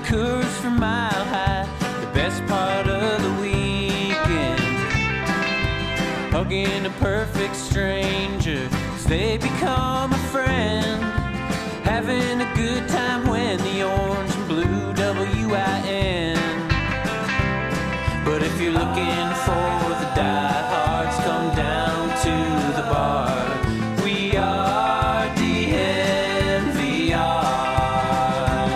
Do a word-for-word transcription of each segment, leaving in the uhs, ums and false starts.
Coors from Mile High, the best part of the weekend. Hugging a perfect stranger as they become a friend. Having a good time when the orange and blue W I N. But if you're looking for the diehards, come down to the bar. We are D N V R.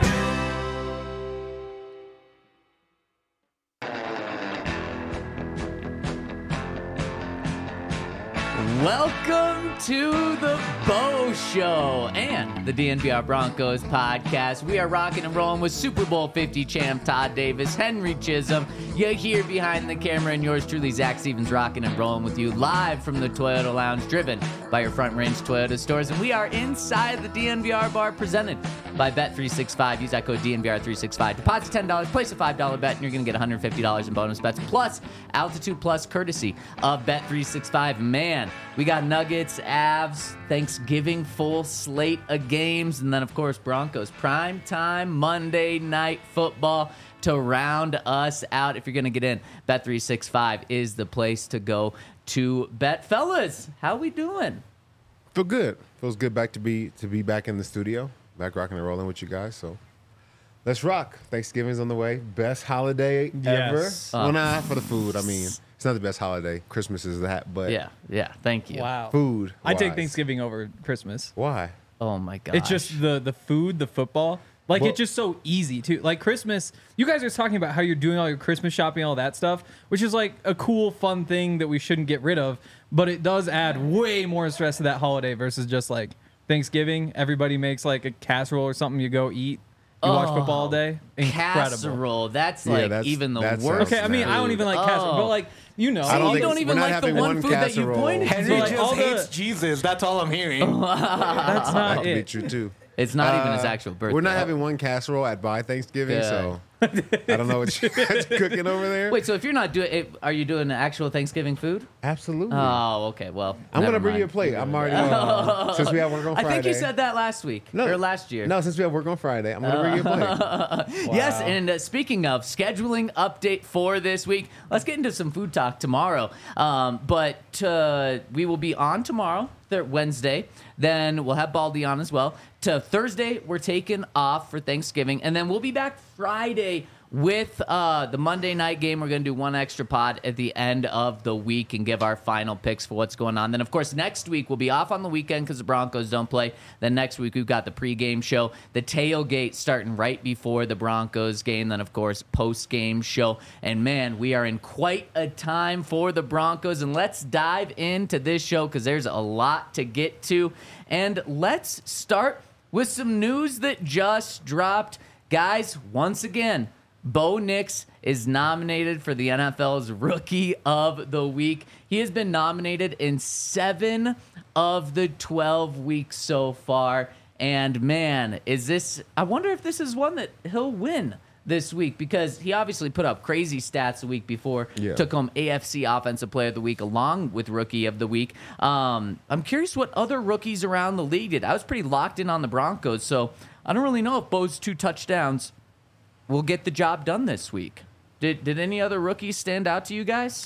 Welcome to the Bo Show and the D N V R Broncos podcast. We are rocking and rolling with Super Bowl fifty champ Todd Davis, Henry Chisholm. You're here behind the camera, and yours truly, Zach Stevens, rocking and rolling with you live from the Toyota Lounge, driven by your Front Range Toyota stores. And we are inside the D N V R bar, presented by Bet three sixty-five. Use that code D N V R three sixty-five. Deposit ten dollars, place a five dollar bet, and you're going to get one hundred fifty dollars in bonus bets, plus Altitude Plus, courtesy of Bet three sixty-five. Man, we got Nuggets, Avs, Thanksgiving, full slate of games, and then, of course, Broncos prime time Monday night football to round us out. If you're going to get in, Bet three sixty-five is the place to go to bet. Fellas, how we doing? Feel good. Feels good back to be to be back in the studio, back rocking and rolling with you guys. So let's rock. Thanksgiving's on the way. Best holiday Yes. ever. Well, nah, for the food. I mean, it's not the best holiday. Christmas is that, but Yeah, yeah, thank you. Wow. food. I take wise. Thanksgiving over Christmas. Why? Oh, my gosh. It's just the the food, the football. Like, Well- it's just so easy, too. Like, Christmas, you guys are talking about how you're doing all your Christmas shopping, all that stuff, which is, like, a cool, fun thing that we shouldn't get rid of. But it does add way more stress to that holiday versus just, like, Thanksgiving. Everybody makes, like, a casserole or something. You go eat. You watch Oh, football all day. Incredible. casserole. That's Yeah, like that's- even the that worst. sounds Okay, I mean, I don't even like casserole, Oh. but, like, you know. I don't you think don't it's- even we're not like the having one one food that you casserole. pointed to. Henry like, just all the- hates Jesus. That's all I'm hearing. That's That not could be it. true too. It's not even his Uh, actual birthday. We're not having one casserole at by Thanksgiving, Good. so I don't know what you guys are cooking over there. Wait, so if you're not doing it, are you doing actual Thanksgiving food? Absolutely. Oh, okay. Well, I'm never gonna bring you a mind. plate. I'm already uh, since we have work on I Friday. think you said that last week or last year. No, since we have work on Friday, I'm gonna bring you a plate. Yes, and uh, speaking of scheduling update for this week, let's get into some food talk tomorrow. Um, but uh, we will be on tomorrow, th- Wednesday. Then we'll have Baldy on as well. To Thursday, we're taking off for Thanksgiving, and then we'll be back Friday with uh, the Monday night game. We're going to do one extra pod at the end of the week and give our final picks for what's going on. Then, of course, next week we'll be off on the weekend because the Broncos don't play. Then next week we've got the pregame show, the tailgate starting right before the Broncos game. Then, of course, post-game show. And, man, we are in quite a time for the Broncos. And let's dive into this show because there's a lot to get to. And let's start with some news that just dropped. Guys, once again, Bo Nix is nominated for the N F L's Rookie of the Week. He has been nominated in seven of the twelve weeks so far. And man, is this, I wonder if this is one that he'll win this week because he obviously put up crazy stats the week before, Yeah. took home A F C Offensive Player of the Week along with Rookie of the Week. Um, I'm curious what other rookies around the league did. I was pretty locked in on the Broncos, so I don't really know if Bo's two touchdowns will get the job done this week. Did did any other rookies stand out to you guys?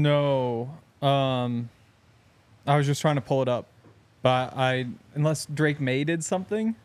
No. Um, I was just trying to pull it up. But I, unless Drake May did something.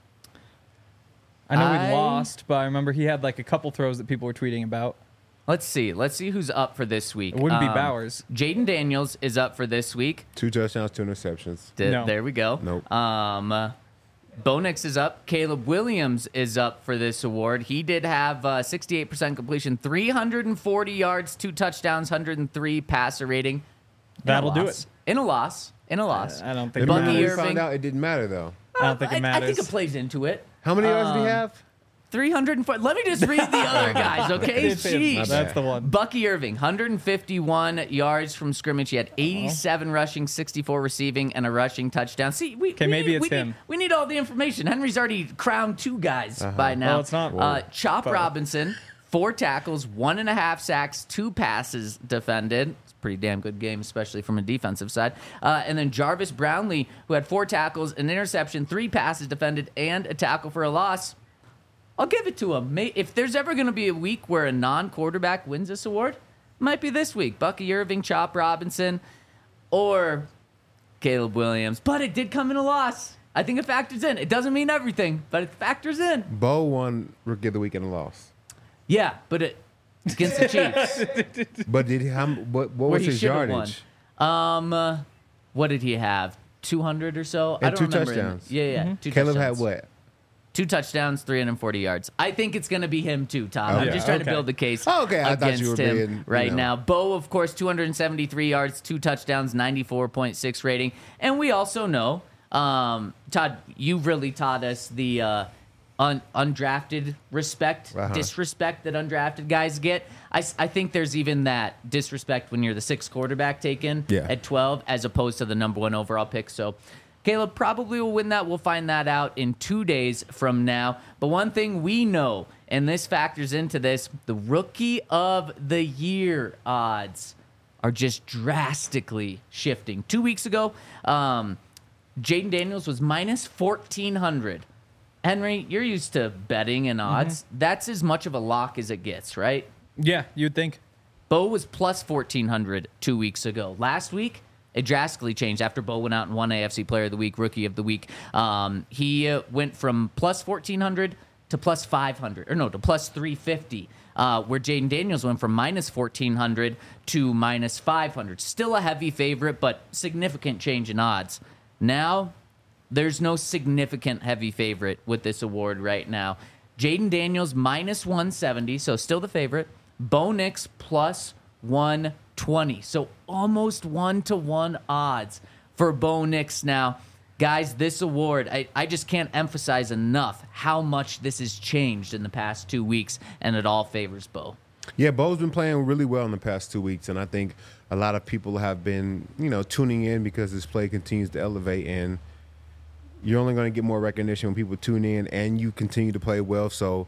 I know I- we lost, but I remember he had like a couple throws that people were tweeting about. Let's see. Let's see who's up for this week. It wouldn't be Um, Bowers. Jaden Daniels is up for this week. Two touchdowns, two interceptions. Th- No. There we go. Nope. Um, uh, Bo Nix is up. Caleb Williams is up for this award. He did have uh, sixty-eight percent completion, three hundred forty yards, two touchdowns, one hundred three passer rating. In a That'll do loss. it. In a loss. In a loss. I don't think it Bucky Remember when we Irving. found out it didn't matter though. I don't think it I, I matters. think it plays into it. How many yards Um, did he have? three hundred four. Let me just read the other guys, okay? Jeez. That's the one. Bucky Irving, one hundred fifty-one yards from scrimmage. He had eighty-seven rushing, sixty-four receiving, and a rushing touchdown. See, we, Okay, we maybe need, it's we him. Need, we need all the information. Henry's already crowned two guys by now. Well, it's not. Uh, Chop But- Robinson, four tackles, one and a half sacks, two passes defended. It's a pretty damn good game, especially from a defensive side. Uh, and then Jarvis Brownlee, who had four tackles, an interception, three passes defended, and a tackle for a loss. I'll give it to him. May- If there's ever going to be a week where a non-quarterback wins this award, it might be this week. Bucky Irving, Chop Robinson, or Caleb Williams. But it did come in a loss. I think it factors in. It doesn't mean everything, but it factors in. Bo won Rookie of the Week and lost. Yeah, but it against the Chiefs. But did he? How, what what Where was he his should have yardage? won. Um, uh, what did he have? two hundred or so? I And don't two remember. touchdowns. Yeah, yeah. Two Caleb touchdowns. had what? Two touchdowns, three hundred forty yards. I think it's going to be him too, Tom. I'm Okay. just trying Okay. to build the case Oh, okay. I thought against you were him being, you right know. now. Bo, of course, two hundred seventy-three yards, two touchdowns, ninety-four point six rating. And we also know, um, Todd, you really taught us the uh, un- undrafted respect, Uh-huh. disrespect that undrafted guys get. I, s- I think there's even that disrespect when you're the sixth quarterback taken Yeah. at twelve as opposed to the number one overall pick. So Caleb probably will win that. We'll find that out in two days from now. But one thing we know, and this factors into this, the Rookie of the Year odds are just drastically shifting. Two weeks ago, um, Jaden Daniels was minus fourteen hundred. Henry, you're used to betting and odds. That's as much of a lock as it gets, right? Yeah, you'd think. Bo was plus fourteen hundred two weeks ago. Last week, it drastically changed after Bo went out and won A F C Player of the Week, Rookie of the Week. Um, he uh, went from plus fourteen hundred to plus five hundred, or no, to plus three fifty, uh, where Jaden Daniels went from minus fourteen hundred to minus five hundred. Still a heavy favorite, but significant change in odds. Now, there's no significant heavy favorite with this award right now. Jaden Daniels minus one seventy, so still the favorite. Bo Nix plus one twenty, so almost one to one odds for Bo Nix now. Guys, this award, I, I just can't emphasize enough how much this has changed in the past two weeks, and it all favors Bo. Yeah, Bo's been playing really well in the past two weeks, and I think a lot of people have been, you know, tuning in because his play continues to elevate, and you're only going to get more recognition when people tune in and you continue to play well. So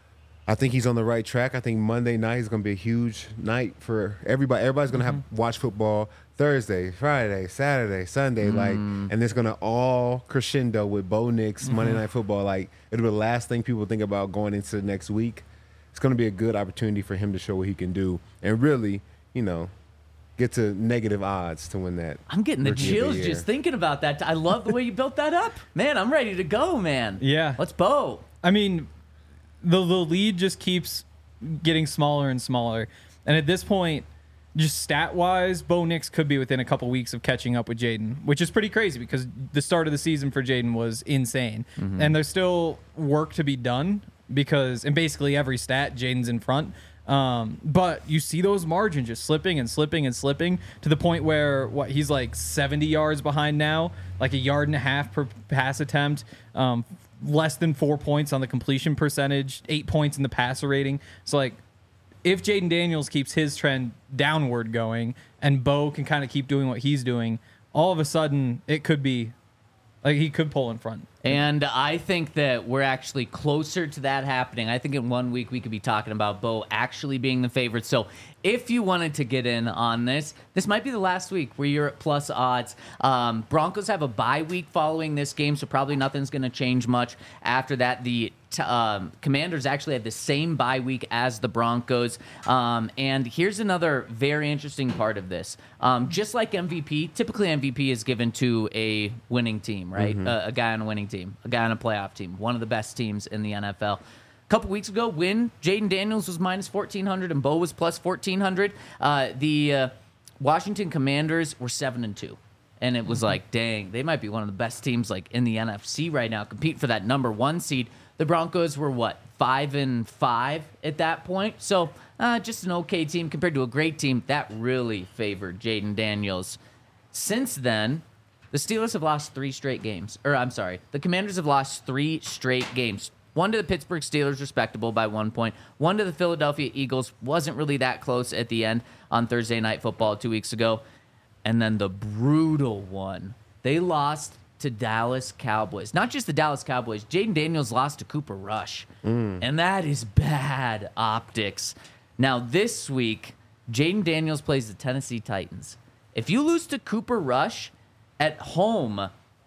I think he's on the right track. I think Monday night is going to be a huge night for everybody. Everybody's going to have watch football Thursday, Friday, Saturday, Sunday, like, and it's going to all crescendo with Bo Nix Monday Night Football. Like, it'll be the last thing people think about going into the next week. It's going to be a good opportunity for him to show what he can do and really, you know, get to negative odds to win that. I'm getting the Rookie of the chills Year. just thinking about that. I love the way you built that up. Man, I'm ready to go, man. Yeah. Let's Bo. I mean, the the lead just keeps getting smaller and smaller. And at this point, just stat wise, Bo Nix could be within a couple weeks of catching up with Jaden, which is pretty crazy because the start of the season for Jaden was insane. And there's still work to be done because in basically every stat, Jaden's in front. Um, but you see those margins just slipping and slipping and slipping to the point where what he's like seventy yards behind now, like a yard and a half per pass attempt, um, less than four points on the completion percentage, eight points in the passer rating. So like, if Jaden Daniels keeps his trend downward going and Bo can kind of keep doing what he's doing, all of a sudden it could be like he could pull in front. And I think that we're actually closer to that happening. I think in one week we could be talking about Bo actually being the favorite. So if you wanted to get in on this, this might be the last week where you're at plus odds. Um, Broncos have a bye week following this game, so probably nothing's going to change much after that. The t- um, Commanders actually had the same bye week as the Broncos. Um, and here's another very interesting part of this. Um, just like M V P, typically M V P is given to a winning team, right? Uh, a guy on a winning team, a guy on a playoff team, one of the best teams in the N F L. A couple weeks ago, when Jaden Daniels was minus fourteen hundred and Bo was plus fourteen hundred, uh, the uh, Washington Commanders were seven and two. And it was like, dang, they might be one of the best teams like in the N F C right now, compete for that number one seed. The Broncos were what, five and five at that point? So uh, just an okay team compared to a great team. That really favored Jaden Daniels. Since then, the Steelers have lost three straight games. Or I'm sorry, the Commanders have lost three straight games. One to the Pittsburgh Steelers, respectable by one point. One to the Philadelphia Eagles, wasn't really that close at the end on Thursday Night Football two weeks ago. And then the brutal one, they lost to Dallas Cowboys. Not just the Dallas Cowboys, Jaden Daniels lost to Cooper Rush. And that is bad optics. Now this week, Jaden Daniels plays the Tennessee Titans. If you lose to Cooper Rush at home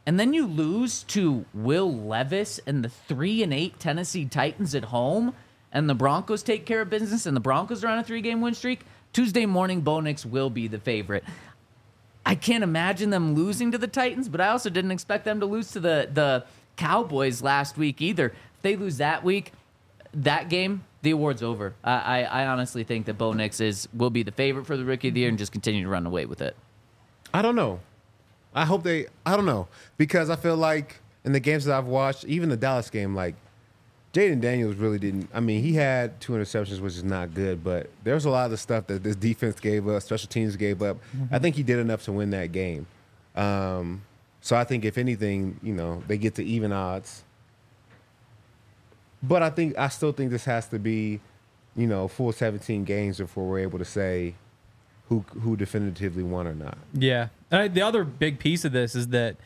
and then you lose to Will Levis and the three and eight Tennessee Titans at home, and the Broncos take care of business, and the Broncos are on a three-game win streak, Tuesday morning, Bo Nix will be the favorite. I can't imagine them losing to the Titans, but I also didn't expect them to lose to the, the Cowboys last week either. If they lose that week, that game, the award's over. I, I, I honestly think that Bo Nix is will be the favorite for the Rookie of the Year and just continue to run away with it. I don't know. I hope they. I don't know because I feel like in the games that I've watched, even the Dallas game, like Jaden Daniels really didn't. I mean, he had two interceptions, which is not good, but there's a lot of the stuff that this defense gave up, special teams gave up. Mm-hmm. I think he did enough to win that game. Um, so I think if anything, you know, they get to even odds. But I think I still think this has to be, you know, full seventeen games before we're able to say who who definitively won or not. Yeah. Uh, the other big piece of this is that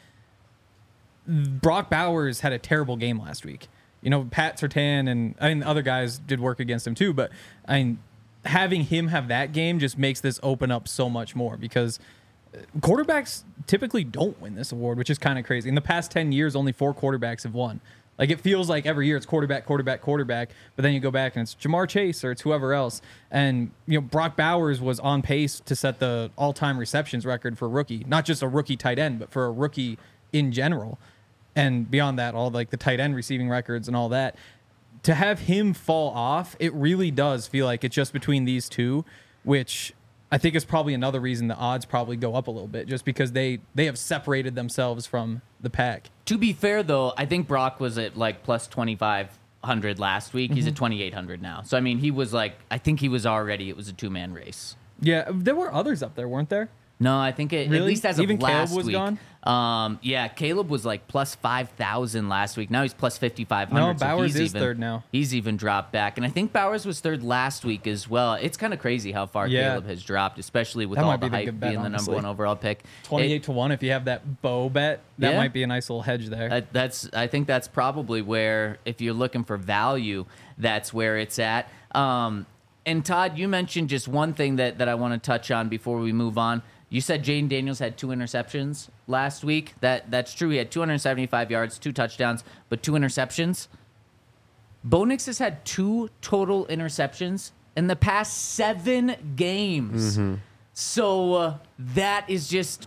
Brock Bowers had a terrible game last week. You know, Pat Surtain and I mean other guys did work against him too, but I mean having him have that game just makes this open up so much more because quarterbacks typically don't win this award, which is kind of crazy. In the past ten years, only four quarterbacks have won. Like it feels like every year it's quarterback, quarterback, quarterback, but then you go back and it's Jamar Chase or it's whoever else. And you know, Brock Bowers was on pace to set the all-time receptions record for a rookie, not just a rookie tight end, but for a rookie in general. And beyond that, all like the tight end receiving records and all that. To have him fall off, it really does feel like it's just between these two, which I think is probably another reason the odds probably go up a little bit, just because they they have separated themselves from the pack. To be fair, though, I think Brock was at like plus twenty-five hundred last week. Mm-hmm. He's at twenty-eight hundred now. So, I mean, he was like, I think he was already, it was a two-man race. Yeah, there were others up there, weren't there? No, I think it, really? at least as of Even last Caleb was week. Gone? Um, yeah, Caleb was like plus five thousand last week. Now he's plus fifty-five hundred. No, Bowers so he's is even, third now. He's even dropped back. And I think Bowers was third last week as well. It's kind of crazy how far Yeah. Caleb has dropped, especially with That all might the be the hype good bet, being the honestly. number one overall pick. twenty-eight It- to one if you have that bow bet. That Yeah. might be a nice little hedge there. That, that's I think that's probably where, if you're looking for value, that's where it's at. Um, and Todd, you mentioned just one thing that, that I want to touch on before we move on. You said Jaden Daniels had two interceptions last week. That That's true. He had two hundred seventy-five yards, two touchdowns, but two interceptions. Bo Nix has had two total interceptions in the past seven games. Mm-hmm. So uh, that is just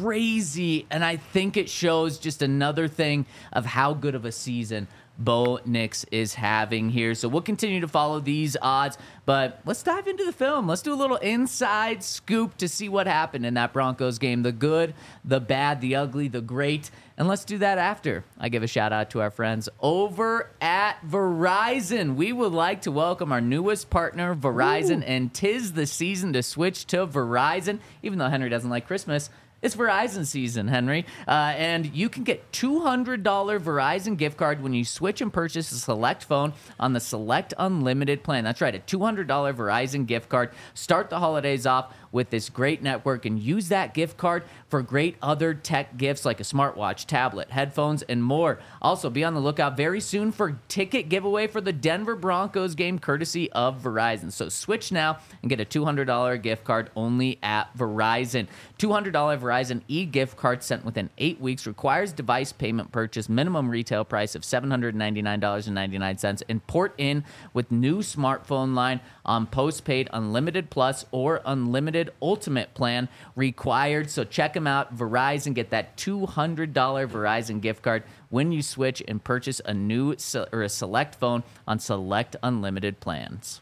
crazy, and I think it shows just another thing of how good of a season Bo Nix is having here. So we'll continue to follow these odds, but let's dive into the film. Let's do a little inside scoop to see what happened in that Broncos game. The good, the bad, the ugly, the great. And let's do that after I give a shout out to our friends over at Verizon. We would like to welcome our newest partner, Verizon, Ooh. and 'tis the season to switch to Verizon. Even though Henry doesn't like Christmas, it's Verizon season, Henry. Uh, and you can get two hundred dollars Verizon gift card when you switch and purchase a select phone on the Select Unlimited plan. That's right, a two hundred dollars Verizon gift card. Start the holidays off with this great network and use that gift card for great other tech gifts like a smartwatch, tablet, headphones, and more. Also, be on the lookout very soon for ticket giveaway for the Denver Broncos game courtesy of Verizon. So switch now and get a two hundred dollars gift card only at Verizon. two hundred dollars Verizon e-gift card sent within eight weeks. Requires device payment purchase. Minimum retail price of seven hundred ninety-nine dollars and ninety-nine cents. And port in with new smartphone line on postpaid Unlimited Plus or Unlimited Ultimate plan required. So check them out. Verizon. Get that two hundred dollars Verizon gift card when you switch and purchase a new se- or a select phone on select unlimited plans.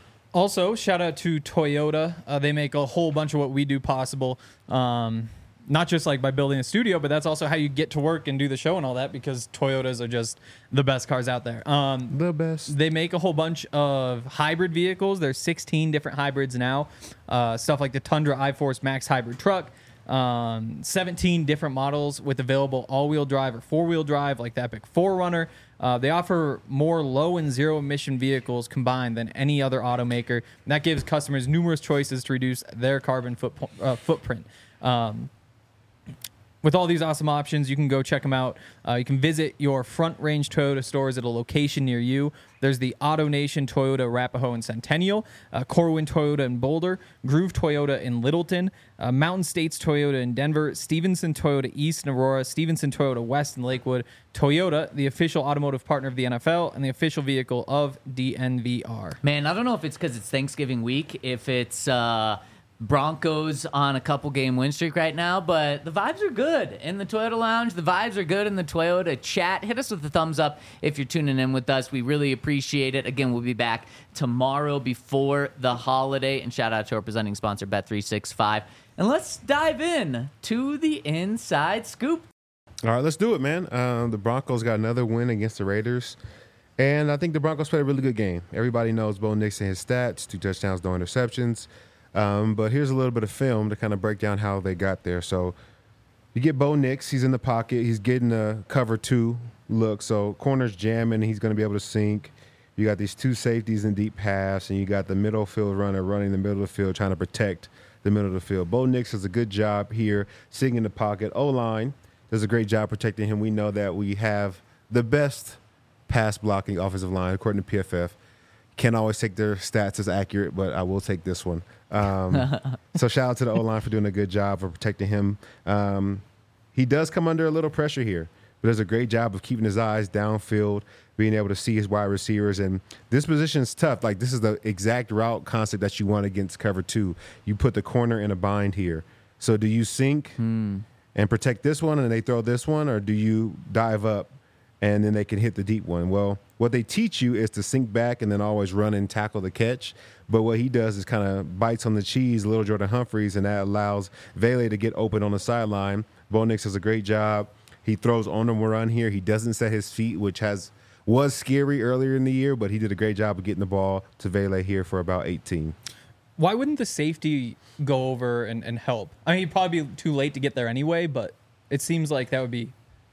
Also, shout out to Toyota. Uh, they make a whole bunch of what we do possible. Um, not just like by building a studio, but that's also how you get to work and do the show and all that, because Toyotas are just the best cars out there. Um, The best. They make a whole bunch of hybrid vehicles. There's sixteen different hybrids now. Uh, stuff like the Tundra iForce Max hybrid truck. Um, seventeen different models with available all-wheel drive or four-wheel drive, like the Epic four runner. Uh, they offer more low and zero emission vehicles combined than any other automaker. And that gives customers numerous choices to reduce their carbon foot, uh, footprint. Um, with all these awesome options, you can go check them out. Uh, you can visit your Front Range Toyota stores at a location near you. There's the Auto Nation Toyota Arapahoe and Centennial, uh, Corwin Toyota in Boulder, Groove Toyota in Littleton, uh, Mountain States Toyota in Denver, Stevenson Toyota East in Aurora, Stevenson Toyota West in Lakewood, Toyota, the official automotive partner of the N F L, and the official vehicle of D N V R. Man, I don't know if it's because it's Thanksgiving week, if it's uh, Broncos on a couple game win streak right now, but the vibes are good in the Toyota Lounge. The vibes are good in the Toyota chat. Hit us with a thumbs up if you're tuning in with us. We really appreciate it. Again, we'll be back tomorrow before the holiday. And shout out to our presenting sponsor, Bet three sixty-five. And let's dive in to the inside scoop. All right, let's do it, man. Um, the Broncos got another win against the Raiders. And I think the Broncos played a really good game. Everybody knows Bo Nix and his stats, two touchdowns, no interceptions. Um, but here's a little bit of film to kind of break down how they got there. So you get Bo Nix. He's in the pocket. He's getting a cover two look. So corner's jamming. He's going to be able to sink. You got these two safeties in deep pass, and you got the middle field runner running the middle of the field trying to protect the middle of the field. Bo Nix does a good job here sitting in the pocket. O-line does a great job protecting him. We know that we have the best pass blocking offensive line, according to P F F. Can't always take their stats as accurate, but I will take this one. Um, so shout out to the O-line for doing a good job of protecting him. Um, he does come under a little pressure here, but does a great job of keeping his eyes downfield, being able to see his wide receivers. And this position is tough. Like, this is the exact route concept that you want against cover two. You put the corner in a bind here. So do you sink hmm. and protect this one and they throw this one, or do you dive up and then they can hit the deep one? Well, what they teach you is to sink back and then always run and tackle the catch. But what he does is kind of bites on the cheese, little Jordan Humphreys, and that allows Vele to get open on the sideline. Bo Nix does a great job. He throws on him a run here. He doesn't set his feet, which has was scary earlier in the year, but he did a great job of getting the ball to Vele here for about eighteen. Why wouldn't the safety go over and, and help? I mean, he'd probably be too late to get there anyway, but it seems like that would be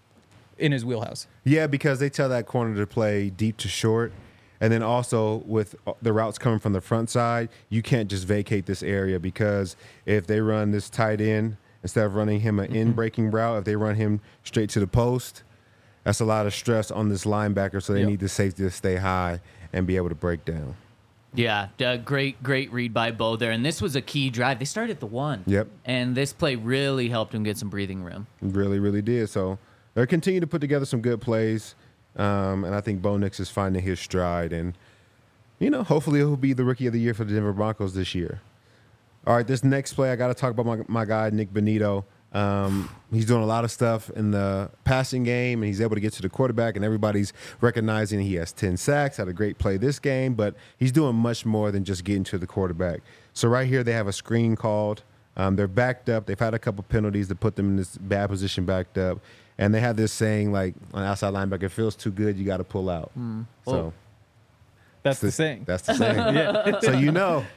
in his wheelhouse. Yeah, because they tell that corner to play deep to short. And then also with the routes coming from the front side, you can't just vacate this area, because if they run this tight end, instead of running him an mm-hmm. in-breaking route, if they run him straight to the post, that's a lot of stress on this linebacker, so they yep. need the safety to stay high and be able to break down. Yeah, uh, great, great read by Bo there. And this was a key drive. They started at the one. Yep. And this play really helped him get some breathing room. Really, really did. So they'll continue to put together some good plays. Um, and I think Bo Nix is finding his stride. And, you know, hopefully he'll be the Rookie of the Year for the Denver Broncos this year. All right, this next play, I got to talk about my, my guy, Nick Bonitto. Um, he's doing a lot of stuff in the passing game, and he's able to get to the quarterback, and everybody's recognizing he has ten sacks, had a great play this game, but he's doing much more than just getting to the quarterback. So right here they have a screen called. Um, they're backed up. They've had a couple penalties that put them in this bad position backed up, and they have this saying, like, on outside linebacker, it feels too good, you got to pull out. Mm. So Oh. That's the, the saying. That's the saying. Yeah. So you know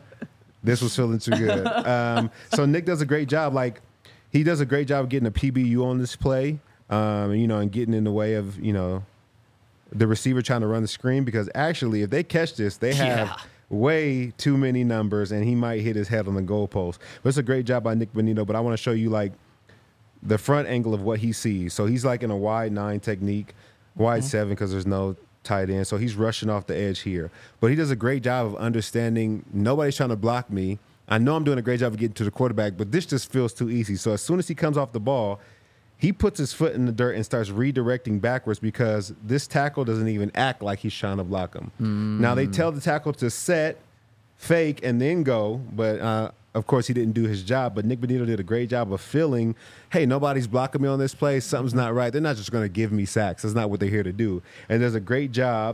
this was feeling too good. Um, so Nick does a great job. Like, he does a great job of getting a P B U on this play, um, you know, and getting in the way of, you know, the receiver trying to run the screen, because actually if they catch this, they have Yeah. way too many numbers and he might hit his head on the goalpost. But it's a great job by Nick Bonitto, but I want to show you, like, the front angle of what he sees. So he's like in a wide nine technique, wide mm-hmm. seven because there's no tight end. So he's rushing off the edge here. But he does a great job of understanding nobody's trying to block me. I know I'm doing a great job of getting to the quarterback, but this just feels too easy. So as soon as he comes off the ball, he puts his foot in the dirt and starts redirecting backwards, because this tackle doesn't even act like he's trying to block him. Mm. Now, they tell the tackle to set, fake, and then go, but uh, of course he didn't do his job. But Nick Bonitto did a great job of feeling, hey, nobody's blocking me on this play. Something's not right. They're not just going to give me sacks. That's not what they're here to do. And there's a great job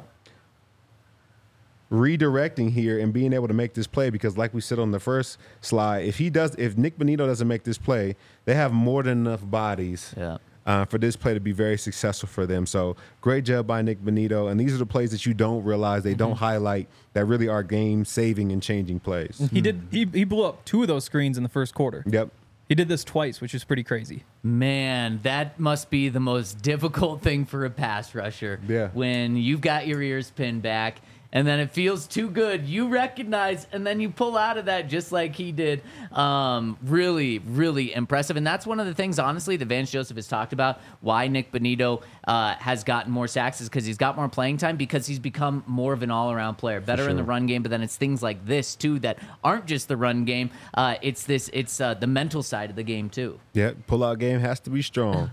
redirecting here and being able to make this play, because like we said on the first slide, if he does, if Nick Bonitto doesn't make this play, they have more than enough bodies Yeah. uh, for this play to be very successful for them. So great job by Nick Bonitto. And these are the plays that you don't realize, they mm-hmm. don't highlight, that really are game saving and changing plays. He did. He, he blew up two of those screens in the first quarter. Yep. He did this twice, which is pretty crazy. Man, that must be the most difficult thing for a pass rusher. Yeah. When you've got your ears pinned back and then it feels too good. You recognize, and then you pull out of that just like he did. Um, really, really impressive. And that's one of the things, honestly, that Vance Joseph has talked about, why Nick Bonito uh, has gotten more sacks is because he's got more playing time, because he's become more of an all-around player, better sure. in the run game. But then it's things like this, too, that aren't just the run game. Uh, it's this. It's uh, the mental side of the game, too. Yeah, pull-out game has to be strong.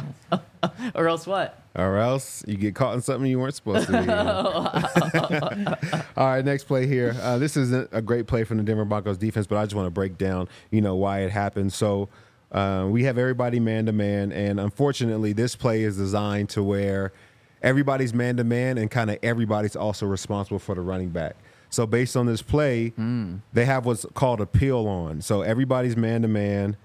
Or else what? Or else you get caught in something you weren't supposed to be in. All right, next play here. Uh, this isn't a great play from the Denver Broncos defense, but I just want to break down, you know, why it happened. So uh, we have everybody man-to-man, and unfortunately this play is designed to where everybody's man-to-man and kind of everybody's also responsible for the running back. So based on this play, mm. they have what's called a peel on. So everybody's man-to-man,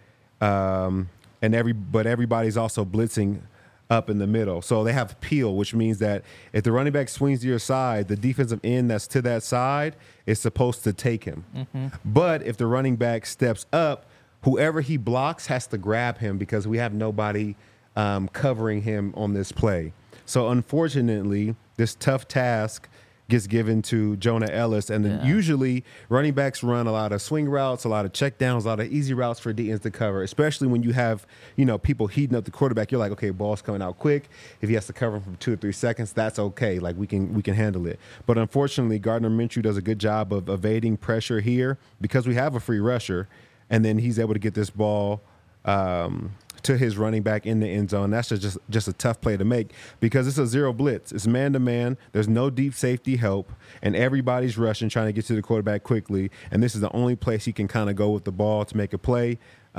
um, and every but everybody's also blitzing up in the middle. So they have peel, which means that if the running back swings to your side, the defensive end that's to that side is supposed to take him. Mm-hmm. But if the running back steps up, whoever he blocks has to grab him because we have nobody um, covering him on this play. So unfortunately, this tough task gets given to Jonah Ellis, and then yeah. usually running backs run a lot of swing routes, a lot of check downs, a lot of easy routes for D Ns to cover, especially when you have, you know, people heating up the quarterback. You're like, okay, ball's coming out quick. If he has to cover him for two or three seconds, that's okay. Like we can we can handle it. But unfortunately, Gardner Minshew does a good job of evading pressure here because we have a free rusher, and then he's able to get this ball um, to his running back in the end zone. That's just, just a tough play to make because it's a zero blitz. It's man-to-man. There's no deep safety help, and everybody's rushing, trying to get to the quarterback quickly, and this is the only place he can kind of go with the ball to make a play.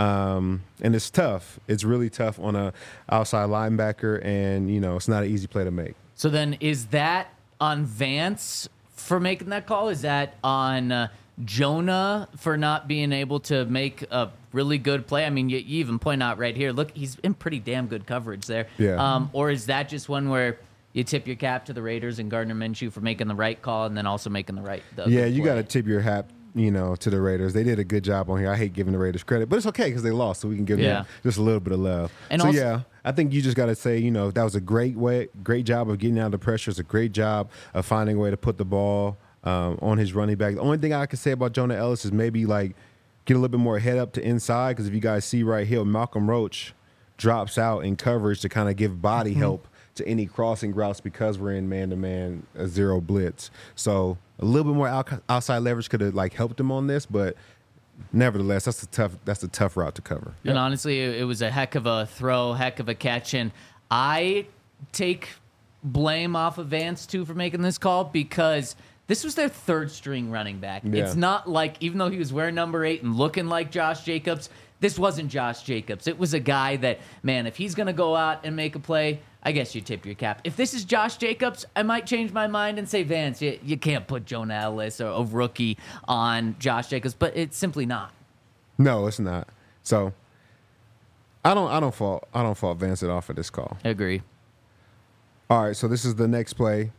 Um, and it's tough. It's really tough on a outside linebacker, and, you know, it's not an easy play to make. So then is that on Vance for making that call? Is that on uh, Jonah for not being able to make a really good play? I mean, you, you even point out right here, look, he's in pretty damn good coverage there. Yeah. Um, or is that just one where you tip your cap to the Raiders and Gardner Minshew for making the right call and then also making the right the Yeah, good you play? got to tip your hat, you know, to the Raiders. They did a good job on here. I hate giving the Raiders credit, but it's okay because they lost, so we can give Yeah. them just a little bit of love. And so, also- yeah, I think you just got to say, you know, that was a great way, great job of getting out of the pressure. It's a great job of finding a way to put the ball um, on his running back. The only thing I can say about Jonah Ellis is maybe, like, get a little bit more head up to inside because if you guys see right here, Malcolm Roach drops out in coverage to kind of give body help to any crossing routes because we're in man-to-man a zero blitz. So a little bit more out, outside leverage could have like helped him on this, but nevertheless, that's a tough that's a tough route to cover. And honestly, it it was a heck of a throw, heck of a catch. And I take blame off of Vance, too, for making this call because this was their third string running back. Yeah. It's not like, even though he was wearing number eight and looking like Josh Jacobs, this wasn't Josh Jacobs. It was a guy that, man, if he's going to go out and make a play, I guess you tip your cap. If this is Josh Jacobs, I might change my mind and say, Vance, you, you can't put Jonah Ellis or a rookie on Josh Jacobs, but it's simply not. No, it's not. So I don't I don't fault I don't fault Vance at all for this call. I agree. All right, so this is the next play.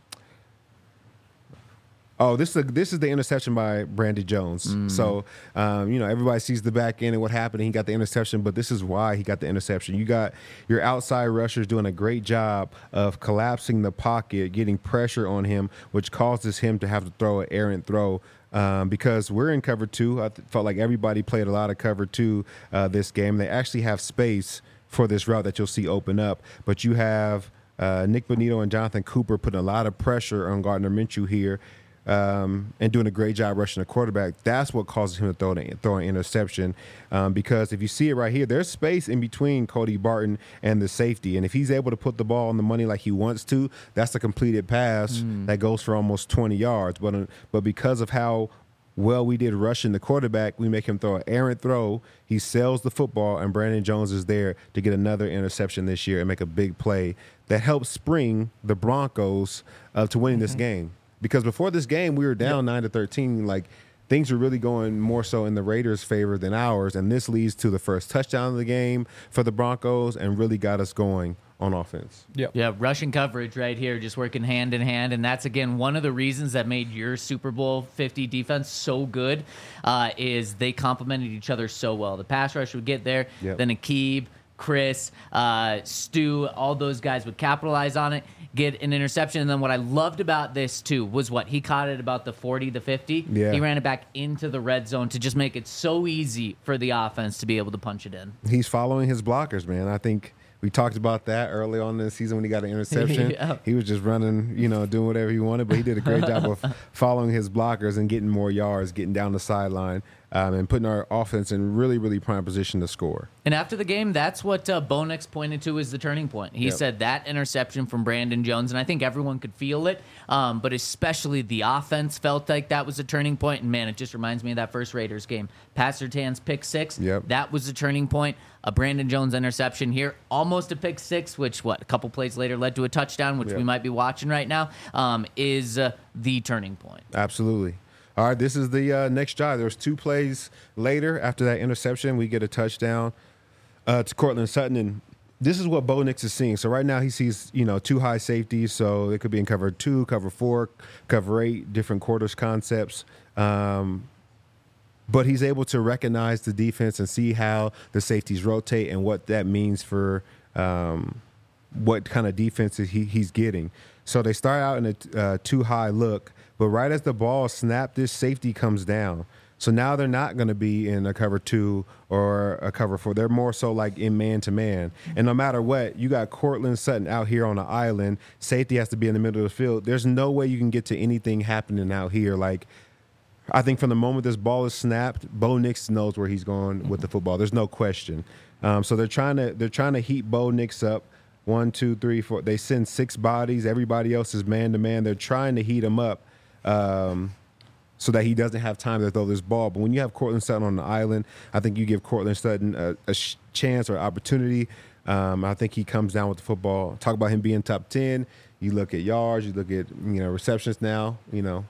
Oh, this is the, this is the interception by Brandy Jones. Mm. So, um, you know, everybody sees the back end and what happened. And he got the interception, but this is why he got the interception. You got your outside rushers doing a great job of collapsing the pocket, getting pressure on him, which causes him to have to throw an errant throw. Um, because we're in cover two. I th- felt like everybody played a lot of cover two uh, this game. They actually have space for this route that you'll see open up, but you have uh, Nick Bonito and Jonathan Cooper putting a lot of pressure on Gardner Minshew here. Um, and doing a great job rushing the quarterback. That's what causes him to throw an, throw an interception. Um, because if you see it right here, there's space in between Cody Barton and the safety. And if he's able to put the ball on the money like he wants to, that's a completed pass mm. that goes for almost twenty yards. But uh, but because of how well we did rushing the quarterback, we make him throw an errant throw. He sells the football, and Brandon Jones is there to get another interception this year and make a big play that helps spring the Broncos uh, to winning mm-hmm. this game. Because before this game, we were down nine to thirteen. Like things were really going more so in the Raiders' favor than ours, and this leads to the first touchdown of the game for the Broncos, and really got us going on offense. Yep. Yeah, rushing coverage right here, just working hand in hand, and that's again one of the reasons that made your Super Bowl fifty defense so good. Uh, is they complemented each other so well. The pass rush would get there, Yep. then Aqib, Chris, uh, Stu, all those guys would capitalize on it, get an interception. And then what I loved about this, too, was what? He caught it about the forty, the fifty. Yeah. He ran it back into the red zone to just make it so easy for the offense to be able to punch it in. He's following his blockers, man. I think we talked about that early on in the season when he got an interception. Yeah. He was just running, you know, doing whatever he wanted, but he did a great job of following his blockers and getting more yards, getting down the sideline, um, and putting our offense in really, really prime position to score. And after the game, that's what uh, Bo Nix pointed to as the turning point. He Yep. said that interception from Brandon Jones, and I think everyone could feel it, um, but especially the offense felt like that was a turning point. And, man, it just reminds me of that first Raiders game. Pat Surtain's pick six, Yep. that was a turning point. A Brandon Jones interception here, almost a pick six, which, what, a couple plays later led to a touchdown, which Yep. we might be watching right now, um, is uh, the turning point. Absolutely. All right, this is the uh, next drive. There's two plays later after that interception. We get a touchdown uh, to Cortland Sutton, and this is what Bo Nix is seeing. So right now he sees, you know, two high safeties, so it could be in cover two, cover four, cover eight, different quarters concepts. Um, but he's able to recognize the defense and see how the safeties rotate and what that means for um, what kind of defense he, he's getting. So they start out in a uh, too high look, but right as the ball snapped, this safety comes down. So now they're not going to be in a cover two or a cover four. They're more so like in man-to-man. And no matter what, you got Cortland Sutton out here on the island. Safety has to be in the middle of the field. There's no way you can get to anything happening out here. Like, I think from the moment this ball is snapped, Bo Nix knows where he's going with the football. There's no question. Um, so they're trying to they're trying to heat Bo Nix up. One, two, three, four. They send six bodies. Everybody else is man to man. They're trying to heat him up um, so that he doesn't have time to throw this ball. But when you have Cortland Sutton on the island, I think you give Cortland Sutton a, a sh- chance or opportunity. Um, I think he comes down with the football. Talk about him being top ten. You look at yards. You look at you know receptions now. You know.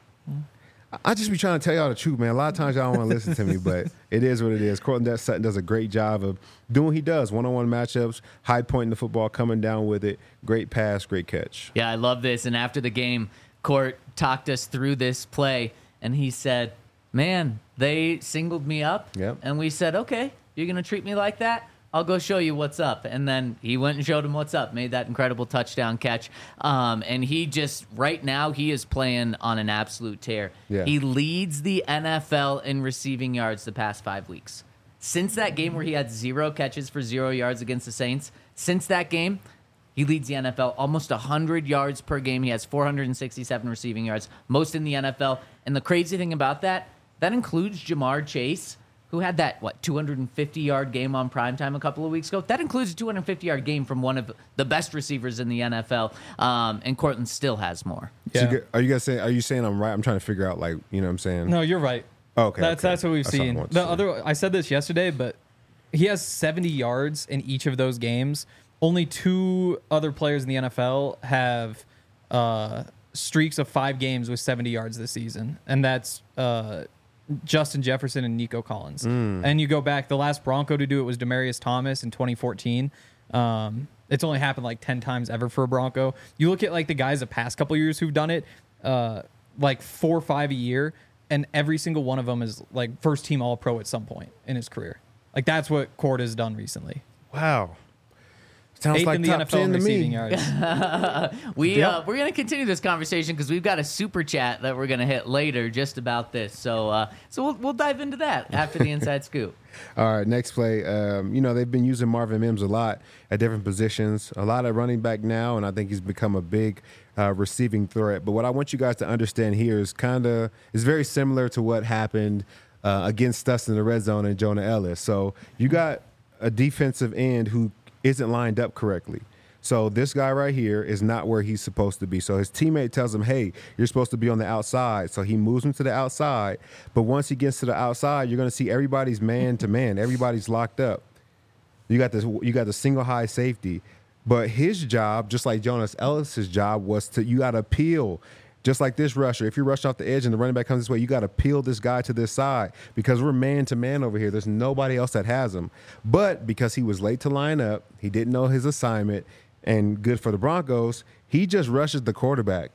I just be trying to tell y'all the truth, man. A lot of times y'all don't want to listen to me, but it is what it is. Cortland Sutton does a great job of doing what he does. One-on-one matchups, high point in the football, coming down with it. Great pass, great catch. Yeah, I love this. And after the game, Court talked us through this play, and he said, man, they singled me up. Yep. And we said, okay, you're going to treat me like that? I'll go show you what's up. And then he went and showed him what's up, made that incredible touchdown catch. Um, and he just, right now, he is playing on an absolute tear. Yeah. He leads the N F L in receiving yards the past five weeks. Since that game where he had zero catches for zero yards against the Saints, since that game, he leads the N F L almost one hundred yards per game. He has four hundred sixty-seven receiving yards, most in the N F L. And the crazy thing about that, that includes Jamar Chase, who had that, what, two hundred fifty-yard game on primetime a couple of weeks ago. That includes a two hundred fifty-yard game from one of the best receivers in the N F L, um, and Cortland still has more. So Yeah. you get- are you guys saying? Are you saying I'm right? I'm trying to figure out, like, you know what I'm saying? No, you're right. Okay, That's okay. that's what we've That's all I seen. wanted to The say. other, I said this yesterday, but he has seventy yards in each of those games. Only two other players in the N F L have uh, streaks of five games with seventy yards this season, and that's uh, Justin Jefferson and Nico Collins. And you go back, the last Bronco to do it was Demaryius Thomas in twenty fourteen. Um, it's only happened like ten times ever for a Bronco. You look at like the guys the past couple years who've done it, uh, like four or five a year, and every single one of them is like first team All Pro at some point in his career. Like that's what Cord has done recently. Wow. Sounds Eighth like in the top N F L ten in to receiving me. yards. We Yep. uh, we're gonna continue this conversation because we've got a super chat that we're gonna hit later just about this. So uh, so we'll we'll dive into that after the inside scoop. All right, next play. Um, you know, they've been using Marvin Mims a lot at different positions. A lot of running back now, and I think he's become a big uh, receiving threat. But what I want you guys to understand here is kind of is very similar to what happened uh, against us in the red zone and Jonah Ellis. So you got a defensive end who isn't lined up correctly. So this guy right here is not where he's supposed to be. So his teammate tells him, hey, you're supposed to be on the outside. So he moves him to the outside. But once he gets to the outside, you're going to see everybody's man to man. Everybody's locked up. You got this. You got the single high safety. But his job, just like Jonas Ellis's job, was to you got to peel. Just like this rusher, if you rush off the edge and the running back comes this way, you got to peel this guy to this side because we're man to man over here. There's nobody else that has him. But because he was late to line up, he didn't know his assignment, and good for the Broncos, he just rushes the quarterback.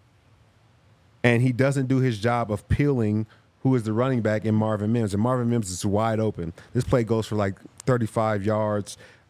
And he doesn't do his job of peeling who is the running back in Marvin Mims. And Marvin Mims is wide open. This play goes for like thirty-five yards.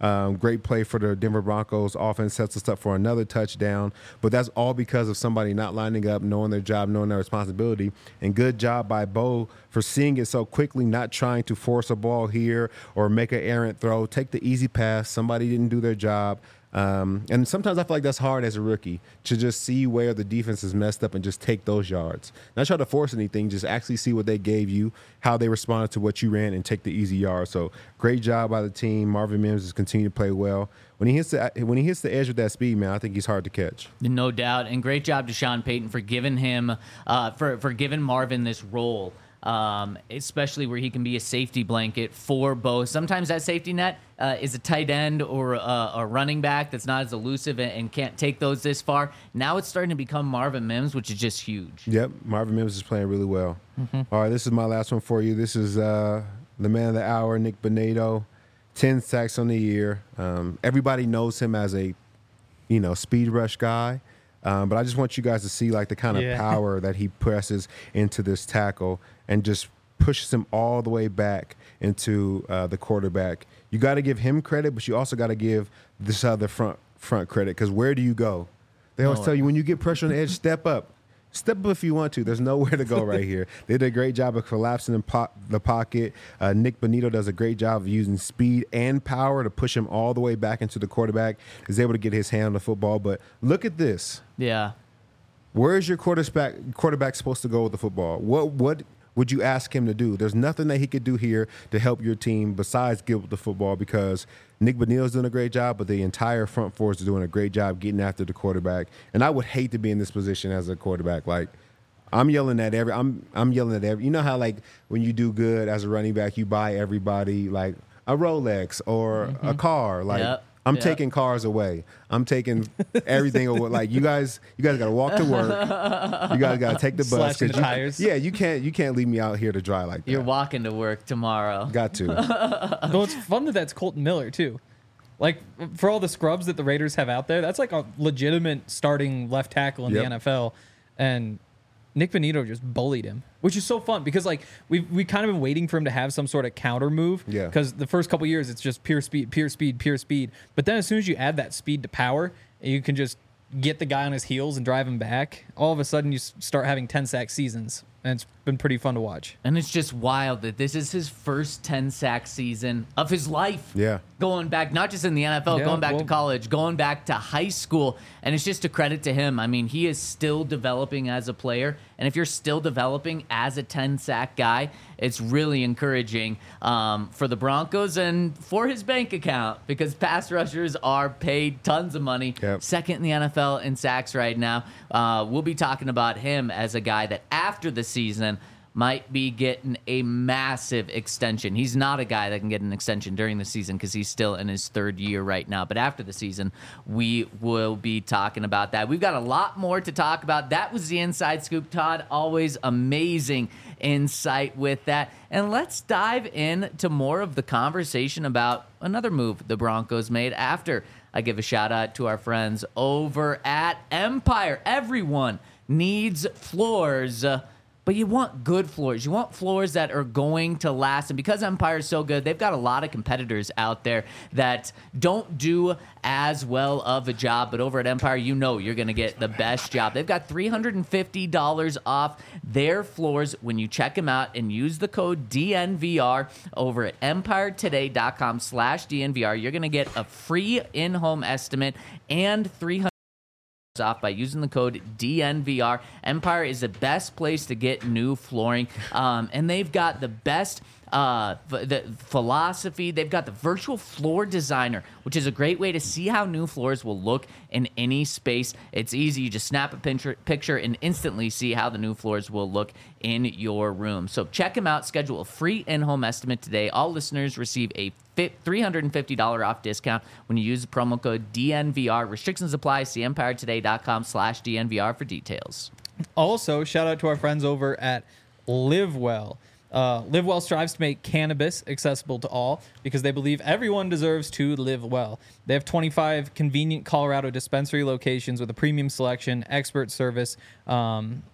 Um, great play for the Denver Broncos. Offense sets us up for another touchdown. But that's all because of somebody not lining up, knowing their job, knowing their responsibility. And good job by Bo for seeing it so quickly, not trying to force a ball here or make an errant throw. Take the easy pass. Somebody didn't do their job. Um, and sometimes I feel like that's hard as a rookie to just see where the defense is messed up and just take those yards. Not try to force anything, just actually see what they gave you, how they responded to what you ran, and take the easy yards. So great job by the team. Marvin Mims has continued to play well. When he hits the when he hits the edge with that speed, man, I think he's hard to catch. No doubt, and great job to Sean Payton for giving him uh, for for giving Marvin this role. Um, especially where he can be a safety blanket for both. Sometimes that safety net uh, is a tight end or a, a running back that's not as elusive and, and can't take those this far. Now it's starting to become Marvin Mims, which is just huge. Yep, Marvin Mims is playing really well. Mm-hmm. All right, this is my last one for you. This is uh, the man of the hour, Nick Bonitto, ten sacks on the year. Um, everybody knows him as a, you know, speed rush guy. Um, but I just want you guys to see like the kind of Yeah. power that he presses into this tackle and just pushes him all the way back into uh, the quarterback. You got to give him credit, but you also got to give this other front front credit because where do you go? They always No. tell you when you get pressure on the edge, step up. Step up if you want to. There's nowhere to go right here. They did a great job of collapsing in po- the pocket. Uh, Nick Bonitto does a great job of using speed and power to push him all the way back into the quarterback. Is able to get his hand on the football. But look at this. Yeah. Where is your quarterback quarterback supposed to go with the football? What what would you ask him to do? There's nothing that he could do here to help your team besides give the football because Nick Bonitto's doing a great job, but the entire front four is doing a great job getting after the quarterback. And I would hate to be in this position as a quarterback. Like I'm yelling at every I'm I'm yelling at every you know how like when you do good as a running back, you buy everybody like a Rolex or mm-hmm. a car. Like Yep. I'm Yep. taking cars away. I'm taking everything away. Like you guys, you guys got to walk to work. You guys got to take the bus. Slashing 'cause the you- tires. Yeah, you can't. You can't leave me out here to dry like that. You're walking to work tomorrow. Got to. Though it's fun that that's Colton Miller too. Like for all the scrubs that the Raiders have out there, that's like a legitimate starting left tackle in Yep. the N F L, and Nick Bonitto just bullied him, which is so fun because like we we kind of been waiting for him to have some sort of counter move. Yeah. Because the first couple years it's just pure speed, pure speed, pure speed. But then as soon as you add that speed to power, you can just get the guy on his heels and drive him back. All of a sudden you s- start having ten sack seasons, and it's been pretty fun to watch. And it's just wild that this is his first ten sack season of his life. Yeah. Going back, not just in the N F L, Yeah, going back well- to college, going back to high school. And it's just a credit to him. I mean, he is still developing as a player. And if you're still developing as a ten sack guy, it's really encouraging um, for the Broncos and for his bank account because pass rushers are paid tons of money. Yep. Second in the N F L in sacks right now. Uh, we'll be talking about him as a guy that after the season might be getting a massive extension. He's not a guy that can get an extension during the season because he's still in his third year right now. But after the season, we will be talking about that. We've got a lot more to talk about. That was the Inside Scoop. Todd, always amazing insight with that. And let's dive into more of the conversation about another move the Broncos made after I give a shout out to our friends over at Empire. Everyone needs floors. Uh, But you want good floors. You want floors that are going to last. And because Empire is so good, they've got a lot of competitors out there that don't do as well of a job. But over at Empire, you know you're going to get the best job. They've got three hundred fifty dollars off their floors when you check them out and use the code D N V R over at empiretoday.com slash DNVR. You're going to get a free in-home estimate and three hundred off by using the code D N V R. Empire is the best place to get new flooring, um, and they've got the best uh, f- the philosophy. They've got the virtual floor designer, which is a great way to see how new floors will look in any space. It's easy. You just snap a picture, picture and instantly see how the new floors will look in your room. So check them out. Schedule a free in-home estimate today. All listeners receive a three hundred fifty dollars off discount when you use the promo code D N V R. Restrictions apply. See empiretoday.com slash DNVR for details. Also, shout out to our friends over at LiveWell. Uh, LiveWell strives to make cannabis accessible to all because they believe everyone deserves to live well. They have twenty-five convenient Colorado dispensary locations with a premium selection, expert service, um,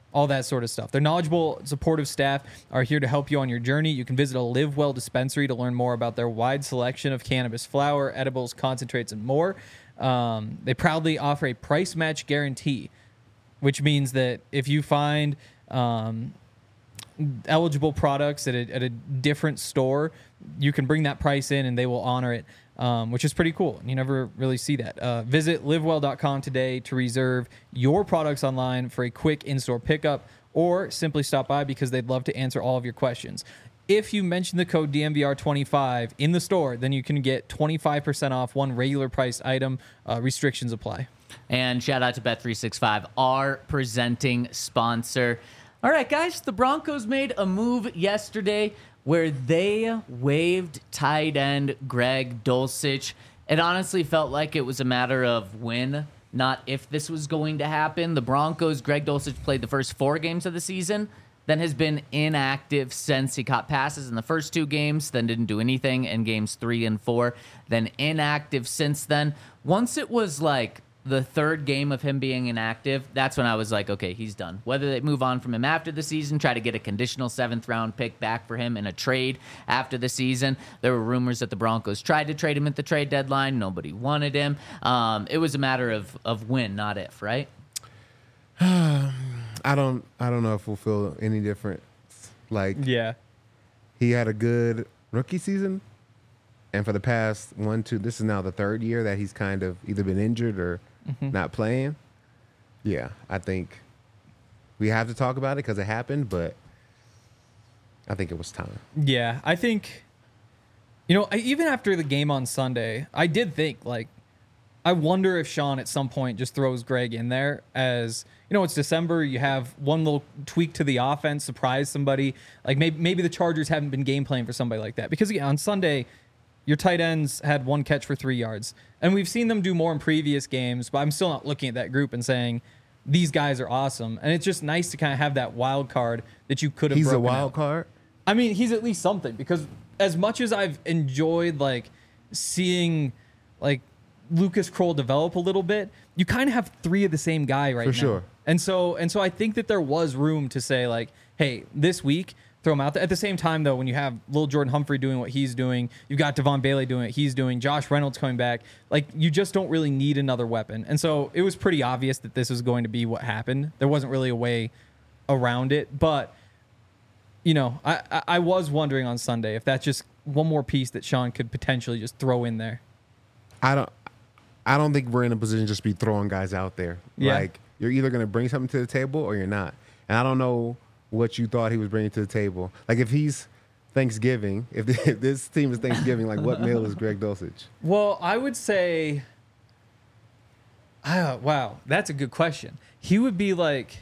all that sort of stuff. Their knowledgeable, supportive staff are here to help you on your journey. You can visit a Live Well dispensary to learn more about their wide selection of cannabis flower, edibles, concentrates, and more. Um, they proudly offer a price match guarantee, which means that if you find um, eligible products at a, at a different store, you can bring that price in and they will honor it, um, which is pretty cool. You never really see that. Uh, visit live well dot com today to reserve your products online for a quick in-store pickup, or simply stop by because they'd love to answer all of your questions. If you mention the code D M V R twenty-five in the store, then you can get twenty-five percent off one regular priced item. Uh, restrictions apply. And shout out to Bet three sixty-five, our presenting sponsor. All right, guys, the Broncos made a move yesterday where they waived tight end Greg Dulcich. It honestly felt like it was a matter of when, not if this was going to happen. The Broncos, Greg Dulcich played the first four games of the season, then has been inactive since. He caught passes in the first two games, then didn't do anything in games three and four, then inactive since then. Once it was like the third game of him being inactive, that's when I was like, okay, he's done. Whether they move on from him after the season, try to get a conditional seventh round pick back for him in a trade after the season. There were rumors that the Broncos tried to trade him at the trade deadline. Nobody wanted him. Um, it was a matter of, of when, not if, right? I don't I don't know if we'll feel any different. Like, Yeah. he had a good rookie season, and for the past one, two, this is now the third year that he's kind of either been injured or Mm-hmm. not playing. Yeah, I think we have to talk about it because it happened, but I think it was time. Yeah, I think, you know, I, even after the game on Sunday, I did think, like, I wonder if Sean at some point just throws Greg in there as, you know, it's December. You have one little tweak to the offense, surprise somebody. Like, maybe, maybe the Chargers haven't been game playing for somebody like that. Because, again, on Sunday, your tight ends had one catch for three yards. And we've seen them do more in previous games, but I'm still not looking at that group and saying, these guys are awesome. And it's just nice to kind of have that wild card that you could have He's a broken wild out. card. I mean, he's at least something, because as much as I've enjoyed like seeing like Lucas Kroll develop a little bit, you kind of have three of the same guy right For now. sure. And so and so I think that there was room to say like, hey, this week throw him out there. At the same time, though, when you have Lil Jordan Humphrey doing what he's doing, you've got Devon Bailey doing what he's doing, Josh Reynolds coming back, like you just don't really need another weapon. And so it was pretty obvious that this was going to be what happened. There wasn't really a way around it, but you know, I, I I was wondering on Sunday if that's just one more piece that Sean could potentially just throw in there. I don't I don't think we're in a position to just be throwing guys out there. Yeah. Like, you're either going to bring something to the table or you're not. And I don't know what you thought he was bringing to the table. Like, if he's Thanksgiving, if, if this team is Thanksgiving, like, what meal is Greg Dulcich? Well, I would say, ah, wow, that's a good question. He would be like,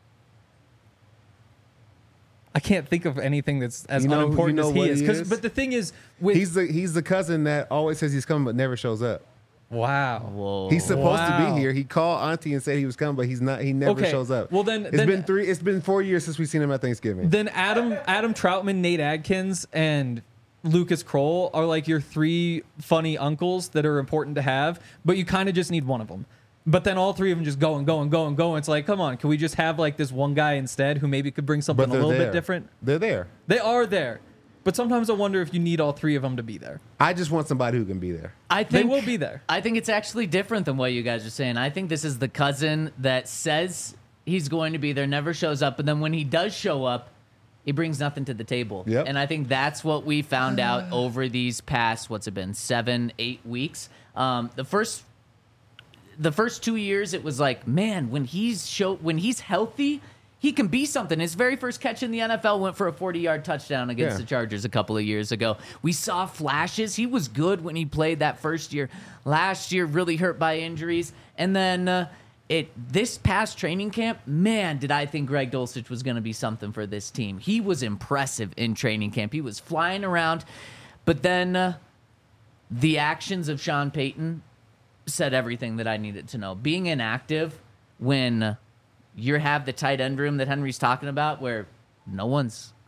I can't think of anything that's as You know- unimportant you know as he what is. he 'Cause- is? But the thing is, with He's the he's the cousin that always says he's coming but never shows up. wow, Whoa. He's supposed to Wow. be here. He called Auntie and said he was coming, but he's not. He never Okay, shows up. well then- it's then- been three. It's been four years since we've seen him at Thanksgiving. then Adam Adam Troutman, Nate Adkins, and Lucas Kroll are like your three funny uncles that are important to have, but you kind of just need one of them. But then all three of them just go and go and go and go. It's like, come on, can we just have like this one guy instead who maybe could bring something but a they're little there. bit different? They're there. They are there. But sometimes I wonder if you need all three of them to be there. I just want somebody who can be there. I They think will be there. I think it's actually different than what you guys are saying. I think this is the cousin that says he's going to be there, never shows up, and then when he does show up, he brings nothing to the table. Yep. And I think that's what we found out over these past, what's it been, seven, eight weeks. Um, the first the first two years, it was like, man, when he's show when he's healthy, he can be something. His very first catch in the N F L went for a forty-yard touchdown against Yeah. the Chargers a couple of years ago. We saw flashes. He was good when he played that first year. Last year, really hurt by injuries. And then uh, it this past training camp, man, did I think Greg Dulcich was going to be something for this team. He was impressive in training camp. He was flying around. But then uh, the actions of Sean Payton said everything that I needed to know. Being inactive when you have the tight end room that Henry's talking about where no one's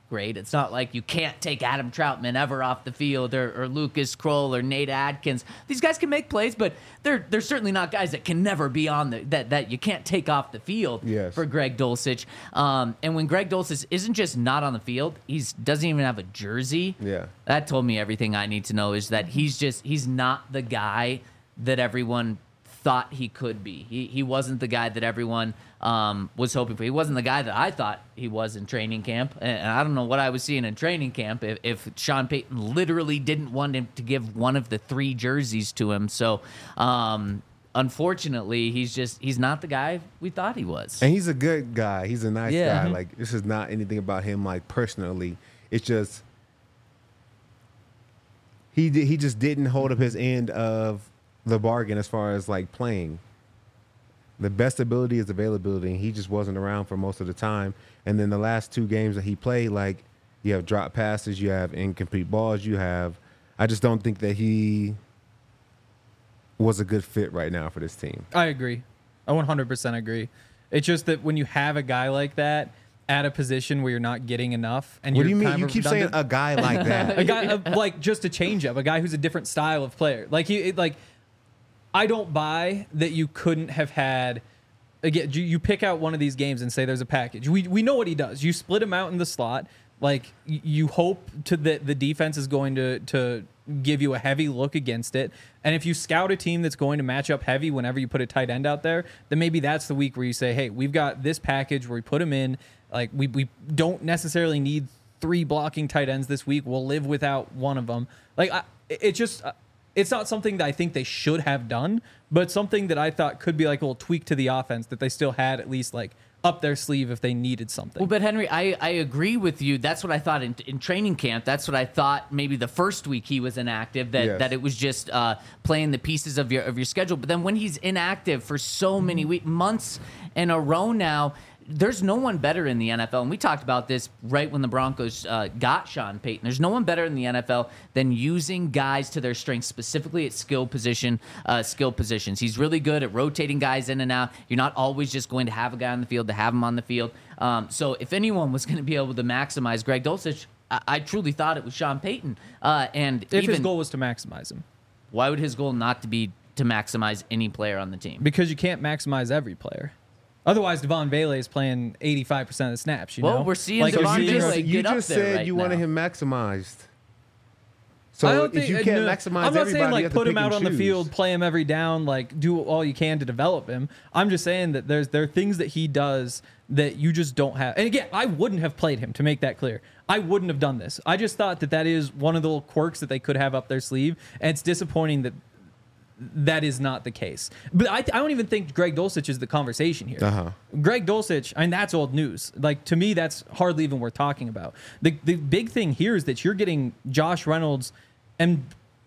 great. It's not like you can't take Adam Troutman ever off the field or, or Lucas Kroll or Nate Adkins. These guys can make plays, but they're they're certainly not guys that can never be on the that that you can't take off the field Yes. for Greg Dulcich. Um, and when Greg Dulcich isn't just not on the field, he's doesn't even have a jersey. Yeah. That told me everything I need to know is that he's just he's not the guy that everyone thought he could be. He he wasn't the guy that everyone um, was hoping for. He wasn't the guy that I thought he was in training camp. And I don't know what I was seeing in training camp if, if Sean Payton literally didn't want him to give one of the three jerseys to him. So um, unfortunately, he's just he's not the guy we thought he was. And he's a good guy. He's a nice Yeah. guy. Like, this is not anything about him, like, personally. It's just he di- he just didn't hold up his end of the bargain as far as, like, playing. The best ability is availability, and he just wasn't around for most of the time. And then the last two games that he played, like, you have drop passes, you have incomplete balls, you have – I just don't think that he was a good fit right now for this team. I agree. I one hundred percent agree. It's just that when you have a guy like that at a position where you're not getting enough, and What you're do you mean? kind You of keep saying redundant- a guy like that. a guy uh, like just a change up, a guy who's a different style of player. Like he, it, like I don't buy that you couldn't have had. Again, you, you pick out one of these games and say there's a package. We we know what he does. You split him out in the slot. Like y- you hope to that the defense is going to to give you a heavy look against it. And if you scout a team that's going to match up heavy whenever you put a tight end out there, then maybe that's the week where you say, hey, we've got this package where we put him in. Like we we don't necessarily need three blocking tight ends this week. We'll live without one of them. Like I, it just. It's not something that I think they should have done, but something that I thought could be like a little tweak to the offense that they still had at least like up their sleeve if they needed something. Well, but Henry, I, I agree with you. That's what I thought in, in training camp. That's what I thought maybe the first week he was inactive, that, Yes. that it was just uh, playing the pieces of your of your schedule. But then when he's inactive for so many week, months in a row now, there's no one better in the N F L. And we talked about this right when the Broncos uh, got Sean Payton. There's no one better in the N F L than using guys to their strengths, specifically at skill position, uh, skill positions. He's really good at rotating guys in and out. You're not always just going to have a guy on the field to have him on the field. Um, so if anyone was going to be able to maximize Greg Dulcich, I, I truly thought it was Sean Payton. Uh, and if even his goal was to maximize him, why would his goal not to be to maximize any player on the team? because you can't maximize every player. Otherwise, Devon Vele is playing eighty-five percent of the snaps. You Well, know, we're seeing like, So Devon you Vele just, get you up just there said right you wanted now. him maximized. I So don't if think- you can't no, maximize I'm not everybody, saying you like have to put him pick out and on the choose. field, play him every down, like do all you can to develop him. I'm just saying that there's there are things that he does that you just don't have. And again, I wouldn't have played him, to make that clear. I wouldn't have done this. I just thought that that is one of the little quirks that they could have up their sleeve, and it's disappointing that that is not the case. But I, I don't even think Greg Dulcich is the conversation here. Uh-huh. Greg Dulcich, I mean, that's old news. Like, to me, that's hardly even worth talking about. The the big thing here is that you're getting Josh Reynolds and,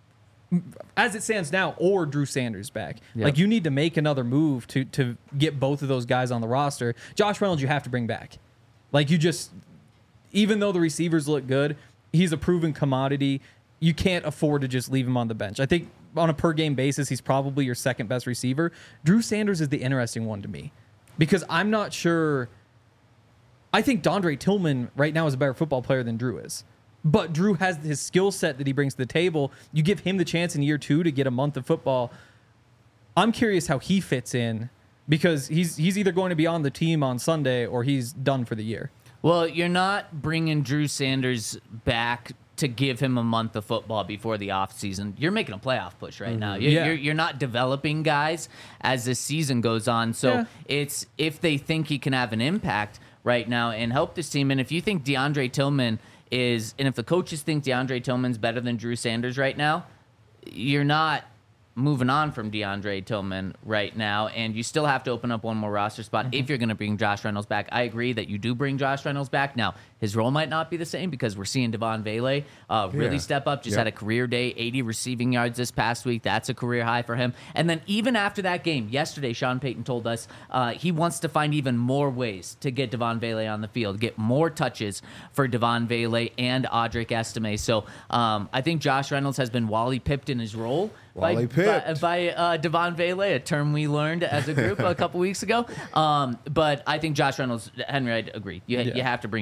as it stands now, or Drew Sanders back. Yep. Like, you need to make another move to to get both of those guys on the roster. Josh Reynolds, you have to bring back. Like, you just, even though the receivers look good, he's a proven commodity. You can't afford to just leave him on the bench. I think on a per game basis, he's probably your second best receiver. Drew Sanders is the interesting one to me because I'm not sure. I think Dondre Tillman right now is a better football player than Drew is. But Drew has his skill set that he brings to the table. You give him the chance in year two to get a month of football. I'm curious how he fits in because he's he's either going to be on the team on Sunday or he's done for the year. Well, you're not bringing Drew Sanders back to give him a month of football before the offseason. You're making a playoff push right now. You're, Yeah. you're, you're not developing guys as the season goes on. So Yeah. it's if they think he can have an impact right now and help this team. And if you think DeAndre Tillman is, and if the coaches think DeAndre Tillman's better than Drew Sanders right now, you're not moving on from DeAndre Tillman right now, and you still have to open up one more roster spot Mm-hmm. if you're going to bring Josh Reynolds back. I agree that you do bring Josh Reynolds back. Now, his role might not be the same because we're seeing Devon Vele uh, really Yeah. step up. Just Yep. had a career day, eighty receiving yards this past week. That's a career high for him. And then even after that game, yesterday, Sean Payton told us uh, he wants to find even more ways to get Devon Vele on the field, get more touches for Devon Vele and Audric Estime. So um, I think Josh Reynolds has been Wally Pipped in his role. Wally by, Pipped. by, by uh, Devon Vele, a term we learned as a group a couple weeks ago. Um, but I think Josh Reynolds, Henry, I agree. You, Yeah. you have to bring Josh Reynolds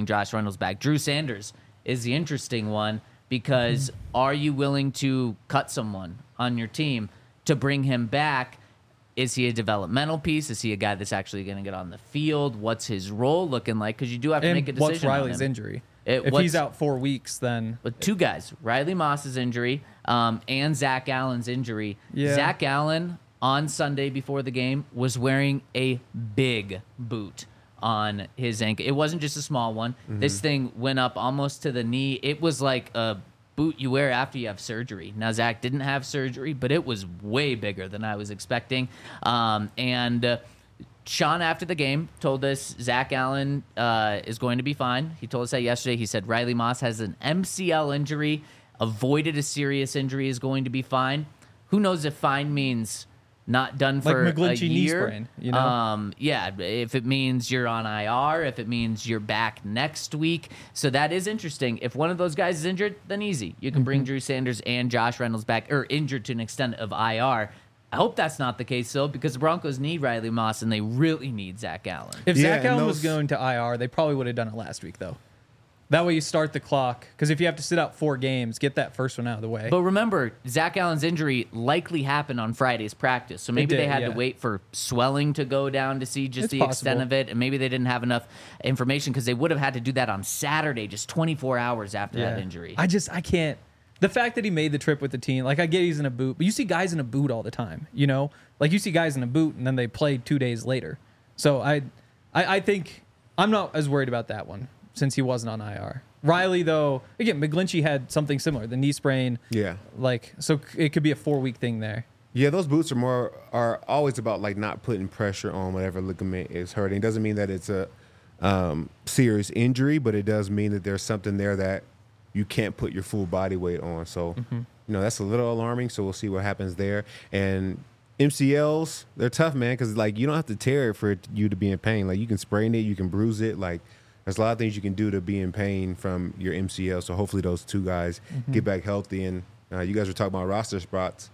Reynolds back. Drew Sanders is the interesting one because are you willing to cut someone on your team to bring him back? Is he a developmental piece? Is he a guy that's actually going to get on the field? What's his role looking like? Because you do have to And make a decision. what's Riley's on him. injury? It- if what's- he's out four weeks, then But two guys, Riley Moss's injury um, and Zach Allen's injury. Yeah. Zach Allen on Sunday before the game was wearing a big boot on his ankle. It wasn't just a small one. This thing went up almost to the knee. It was like a boot you wear after you have surgery. Now, Zach didn't have surgery, but it was way bigger than I was expecting. Um, and uh, Sean, after the game, told us Zach Allen uh, is going to be fine. He told us that yesterday. He said Riley Moss has an M C L injury, avoided a serious injury, is going to be fine. Who knows if fine means not done Like for a McGlinchey knee year. sprain, you know? Um, yeah, if it means you're on I R, if it means you're back next week. So that is interesting. If one of those guys is injured, then easy. You can Mm-hmm. bring Drew Sanders and Josh Reynolds back, or injured to an extent of I R. I hope that's not the case, though, because the Broncos need Riley Moss, and they really need Zach Allen. if Yeah, Zach and Allen was those- going to I R, they probably would have done it last week, though. That way you start the clock. Because if you have to sit out four games, get that first one out of the way. But remember, Zach Allen's injury likely happened on Friday's practice. So maybe did, they had yeah. to wait for swelling to go down to see just It's the possible. extent of it. And maybe they didn't have enough information because they would have had to do that on Saturday, just twenty-four hours after that injury. I just, I can't. The fact that he made the trip with the team, like I get he's in a boot, but you see guys in a boot all the time, you know? Like you see guys in a boot and then they play two days later. So I, I, I think I'm not as worried about that one since he wasn't on I R. Riley, though, again, McGlinchey had something similar, the knee sprain. Yeah. Like, so it could be a four week thing there. Yeah, those boots are more are always about like not putting pressure on whatever ligament is hurting. It doesn't mean that it's a um, serious injury, but it does mean that there's something there that you can't put your full body weight on. So, you know, that's a little alarming. So we'll see what happens there. And M C Ls, they're tough, man, because like you don't have to tear it for it- you to be in pain. Like you can sprain it, you can bruise it. Like there's a lot of things you can do to be in pain from your M C L. So hopefully those two guys get back healthy. And uh, you guys were talking about roster spots.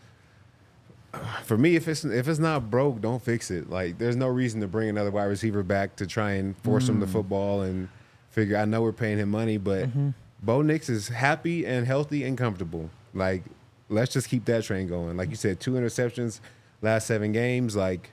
For me, if it's if it's not broke, don't fix it. Like, there's no reason to bring another wide receiver back to try and force him to football and figure. I know we're paying him money, but Bo Nix is happy and healthy and comfortable. Like, let's just keep that train going. Like you said, two interceptions last seven games. Like,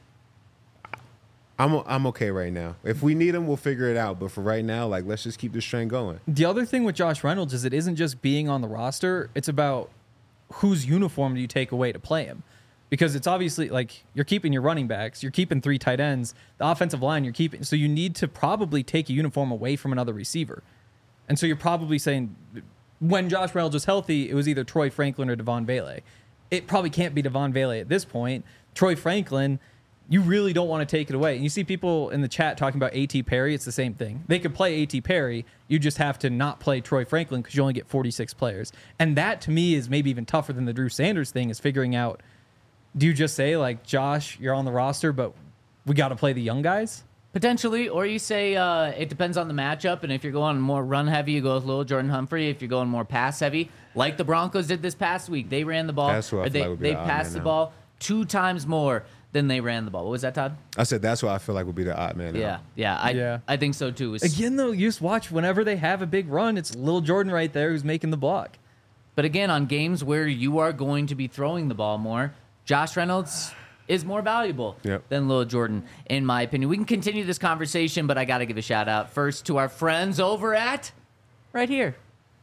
I'm I'm okay right now. If we need him, we'll figure it out. But for right now, like, let's just keep this train going. The other thing with Josh Reynolds is it isn't just being on the roster, it's about whose uniform do you take away to play him. Because it's obviously like you're keeping your running backs, you're keeping three tight ends, the offensive line you're keeping. So you need to probably take a uniform away from another receiver. And so you're probably saying when Josh Reynolds was healthy, it was either Troy Franklin or Devon Bailey. It probably can't be Devon Bailey at this point. Troy Franklin, you really don't want to take it away. And you see people in the chat talking about A T Perry. It's the same thing. They could play A T Perry. You just have to not play Troy Franklin because you only get forty-six players. And that to me is maybe even tougher than the Drew Sanders thing, is figuring out, do you just say, like, Josh, you're on the roster, but we got to play the young guys? Potentially, or you say uh, it depends on the matchup, and if you're going more run heavy, you go with Lil Jordan Humphrey. If you're going more pass heavy, like the Broncos did this past week, they ran the ball. That's who I or feel they like would be they the odd passed man the now. ball two times more than they ran the ball. What was that, Todd? I said that's what I feel like would be the odd man. now. Yeah, yeah, I Yeah. I think so too. It's- Again, though, you just watch whenever they have a big run, it's Lil Jordan right there who's making the block. But again, on games where you are going to be throwing the ball more, Josh Reynolds is more valuable Yep. than Lil Jordan, in my opinion. We can continue this conversation, but I got to give a shout out first to our friends over at right here.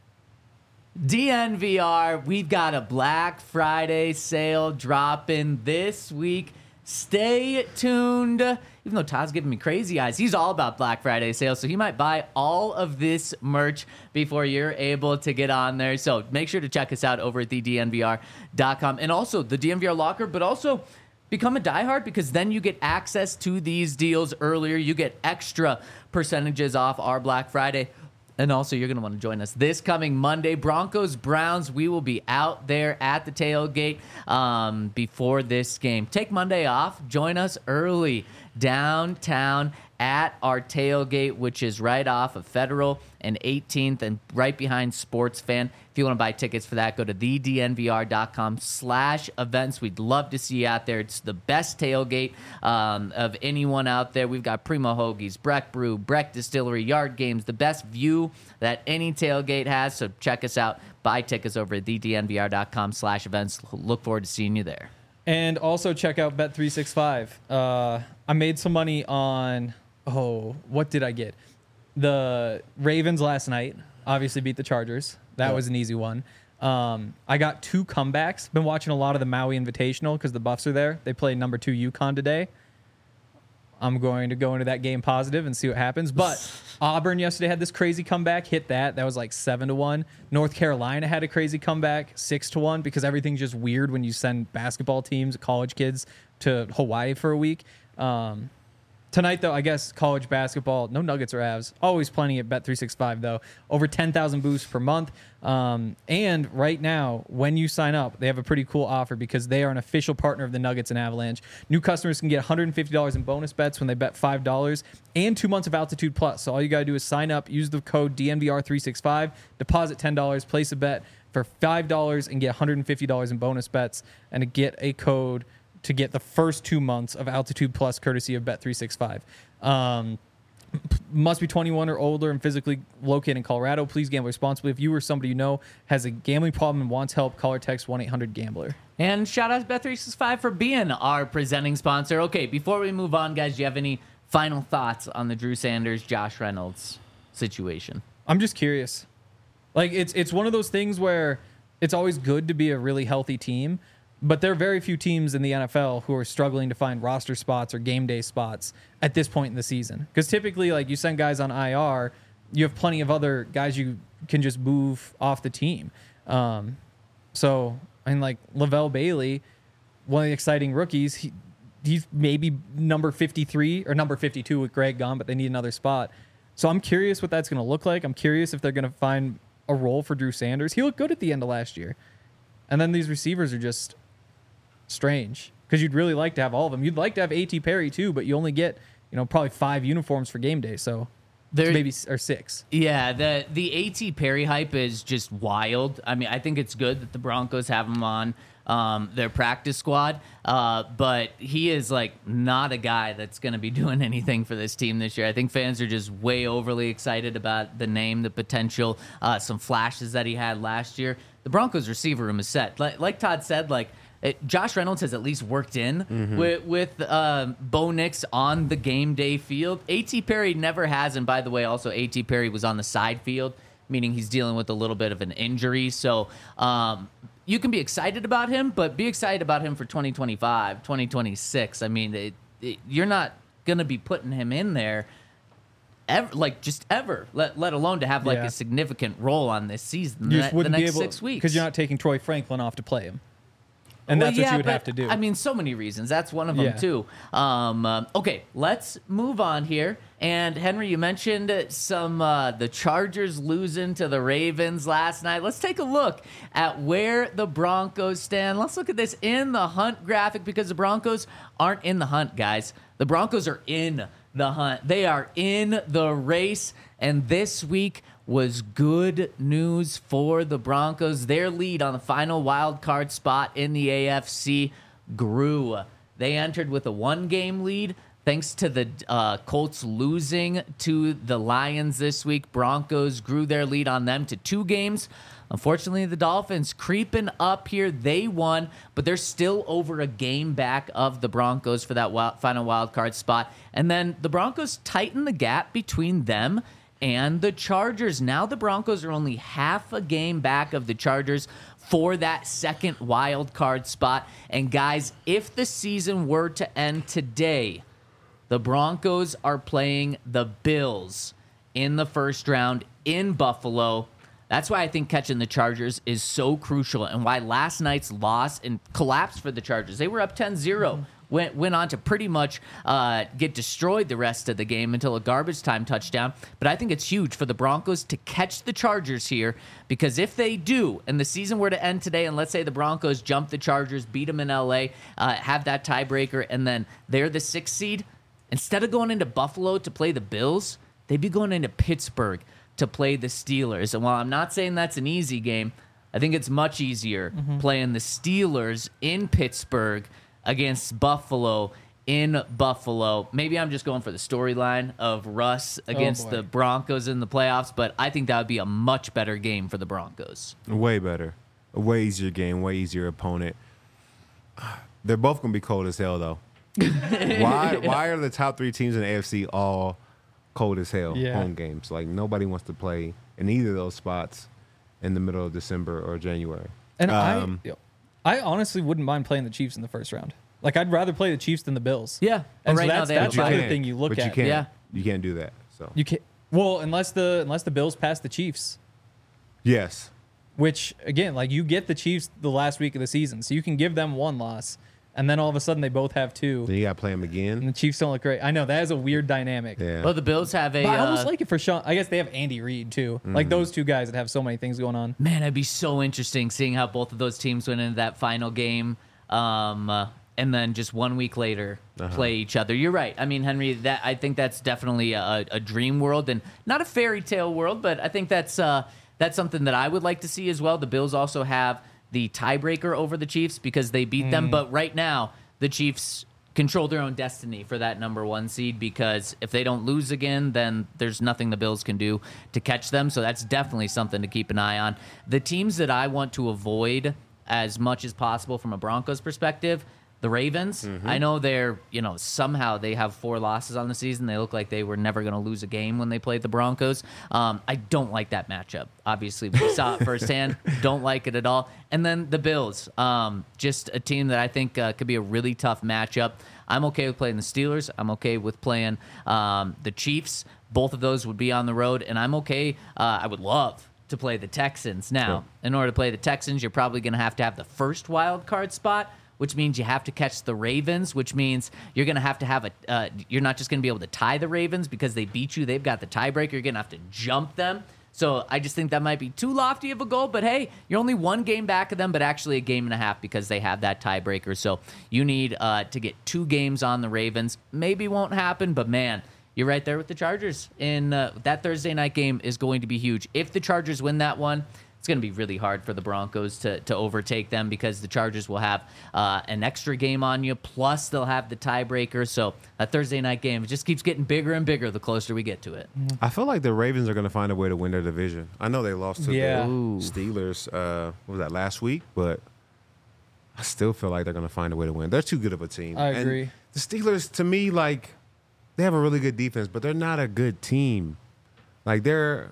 D N V R, we've got a Black Friday sale dropping this week. Stay tuned. Even though Todd's giving me crazy eyes, he's all about Black Friday sales, so he might buy all of this merch before you're able to get on there. So make sure to check us out over at the D N V R dot com and also the D N V R Locker, but also become a diehard because then you get access to these deals earlier. You get extra percentages off our Black Friday. And also, you're going to want to join us this coming Monday. Broncos, Browns, we will be out there at the tailgate um, before this game. Take Monday off. Join us early downtown at our tailgate, which is right off of Federal and eighteenth and right behind Sports Fan. If you want to buy tickets for that, go to the d n v r dot com slash events. We'd love to see you out there. It's the best tailgate um, of anyone out there. We've got Primo Hoagies, Breck Brew, Breck Distillery, Yard Games, the best view that any tailgate has. So check us out. Buy tickets over at the d n v r dot com slash events. Look forward to seeing you there. And also check out Bet three sixty-five. Uh, I made some money on, oh, what did I get? The Ravens last night obviously beat the Chargers. That Yep. was an easy one. Um, I got two comebacks. Been watching a lot of the Maui Invitational because the Buffs are there. They play number two UConn today. I'm going to go into that game positive and see what happens. But Auburn yesterday had this crazy comeback, hit that. That was like seven to one. North Carolina had a crazy comeback, six to one, because everything's just weird when you send basketball teams, college kids, to Hawaii for a week. Um, Tonight, though, I guess college basketball, no Nuggets or Avs. Always plenty at Bet three sixty-five, though. Over ten thousand boosts per month. Um, and right now, when you sign up, they have a pretty cool offer because they are an official partner of the Nuggets and Avalanche. New customers can get one hundred fifty dollars in bonus bets when they bet five dollars and two months of Altitude Plus. So all you got to do is sign up, use the code D N V R three sixty-five, deposit ten dollars, place a bet for five dollars and get one hundred fifty dollars in bonus bets and to get a code to get the first two months of Altitude Plus courtesy of Bet three sixty-five. Um, must be twenty-one or older and physically located in Colorado. Please gamble responsibly. If you or somebody you know has a gambling problem and wants help, call or text one eight hundred gambler. And shout out to Bet three sixty-five for being our presenting sponsor. Okay, before we move on, guys, do you have any final thoughts on the Drew Sanders, Josh Reynolds situation? I'm just curious. Like, it's it's one of those things where it's always good to be a really healthy team, but there are very few teams in the N F L who are struggling to find roster spots or game day spots at this point in the season. Because typically, like, you send guys on I R, you have plenty of other guys you can just move off the team. Um, so, I mean, like, Lavelle Bailey, one of the exciting rookies, he, he's maybe number fifty-three or number fifty-two with Greg gone, but they need another spot. So I'm curious what that's going to look like. I'm curious if they're going to find a role for Drew Sanders. He looked good at the end of last year. And then these receivers are just strange because you'd really like to have all of them. You'd like to have A T Perry too, but you only get, you know, probably five uniforms for game day. So There, maybe or six. Yeah, the the A T Perry hype is just wild. I mean, I think it's good that the Broncos have him on um, their practice squad, uh, but he is like not a guy that's going to be doing anything for this team this year. I think fans are just way overly excited about the name, the potential, uh, some flashes that he had last year. The Broncos receiver room is set. Like, like Todd said, like. It, Josh Reynolds has at least worked in mm-hmm. with, with uh, Bo Nix on the game day field. A T Perry never has, and by the way, also A T Perry was on the side field, meaning he's dealing with a little bit of an injury. So um, you can be excited about him, but be excited about him for twenty twenty-five, twenty twenty-six. I mean, it, it, you're not going to be putting him in there ever, like just ever, let, let alone to have like Yeah. a significant role on this season, You the, just the wouldn't next be able six weeks. because you're not taking Troy Franklin off to play him. And Well, that's yeah, what you would but, have to do. I mean, so many reasons. That's one of them, Yeah. too. Um, um, okay, let's move on here. And, Henry, you mentioned some uh, the Chargers losing to the Ravens last night. Let's take a look at where the Broncos stand. Let's look at this in the hunt graphic because the Broncos aren't in the hunt, guys. The Broncos are in the hunt. They are in the race. And this week was good news for the Broncos. Their lead on the final wild card spot in the A F C grew. They entered with a one-game lead thanks to the uh, Colts losing to the Lions this week. Broncos grew their lead on them to two games. Unfortunately, the Dolphins creeping up here. They won, but they're still over a game back of the Broncos for that wild, final wild card spot. And then the Broncos tighten the gap between them and the Chargers. Now the Broncos are only half a game back of the Chargers for that second wild card spot. And guys, if the season were to end today, the Broncos are playing the Bills in the first round in Buffalo. That's why I think catching the Chargers is so crucial and why last night's loss and collapse for the Chargers. They were up ten zero. Mm-hmm. Went, went on to pretty much uh, get destroyed the rest of the game until a garbage time touchdown. But I think it's huge for the Broncos to catch the Chargers here because if they do, and the season were to end today, and let's say the Broncos jump the Chargers, beat them in L A, uh, have that tiebreaker, and then they're the sixth seed, instead of going into Buffalo to play the Bills, they'd be going into Pittsburgh to play the Steelers. And while I'm not saying that's an easy game, I think it's much easier Mm-hmm. playing the Steelers in Pittsburgh against Buffalo in Buffalo. Maybe I'm just going for the storyline of Russ against boy. the Broncos in the playoffs, but I think that would be a much better game for the Broncos. Way better. A way easier game, way easier opponent. They're both going to be cold as hell, though. why Why are the top three teams in the A F C all cold as hell Yeah. home games? Like, nobody wants to play in either of those spots in the middle of December or January. And Um, I, I honestly wouldn't mind playing the Chiefs in the first round. Like, I'd rather play the Chiefs than the Bills. Yeah, but And so right now that's, they have that's a the bye. other can't. thing you look but at. you can't. Yeah. You can't do that. So You can't. Well, unless the unless the Bills pass the Chiefs, yes, which again, like you get the Chiefs the last week of the season, so you can give them one loss, and then all of a sudden they both have two, then you got to play them and again. the Chiefs don't look great. I know that is a weird dynamic. Yeah. Well, the Bills have a. But I almost uh, like it for Sean. I guess they have Andy Reid too. Mm-hmm. Like those two guys that have so many things going on. Man, it'd be so interesting seeing how both of those teams went into that final game, um, uh, and then just one week later Uh-huh. play each other. You're right. I mean, Henry, that I think that's definitely a, a dream world and not a fairy tale world, but I think that's uh, that's something that I would like to see as well. The Bills also have the tiebreaker over the Chiefs because they beat them, but right now the Chiefs control their own destiny for that number one seed because if they don't lose again, then there's nothing the Bills can do to catch them. So that's definitely something to keep an eye on. The teams that I want to avoid as much as possible from a Broncos perspective, the Ravens. I know they're, you know, somehow they have four losses on the season. They look like they were never going to lose a game when they played the Broncos. Um, I don't like that matchup. Obviously, we saw it firsthand. Don't like it at all. And then the Bills, um, just a team that I think uh, could be a really tough matchup. I'm okay with playing the Steelers. I'm okay with playing um, the Chiefs. Both of those would be on the road, and I'm okay. Uh, I would love to play the Texans. Now, Sure. in order to play the Texans, you're probably going to have to have the first wild card spot, which means you have to catch the Ravens, which means you're going to have to have a, uh, you're not just going to be able to tie the Ravens because they beat you. They've got the tiebreaker. You're going to have to jump them. So I just think that might be too lofty of a goal, but hey, you're only one game back of them, but actually a game and a half because they have that tiebreaker. So you need uh, to get two games on the Ravens. Maybe won't happen, but man, you're right there with the Chargers. In uh, that Thursday night game is going to be huge. If the Chargers win that one, it's going to be really hard for the Broncos to, to overtake them because the Chargers will have uh, an extra game on you, plus they'll have the tiebreaker. So that Thursday night game, it just keeps getting bigger and bigger the closer we get to it. I feel like the Ravens are going to find a way to win their division. I know they lost to Yeah. the Ooh. Steelers. Uh, what was that last week? But I still feel like they're going to find a way to win. They're too good of a team. I And agree. the Steelers, to me, like they have a really good defense, but they're not a good team. Like they're,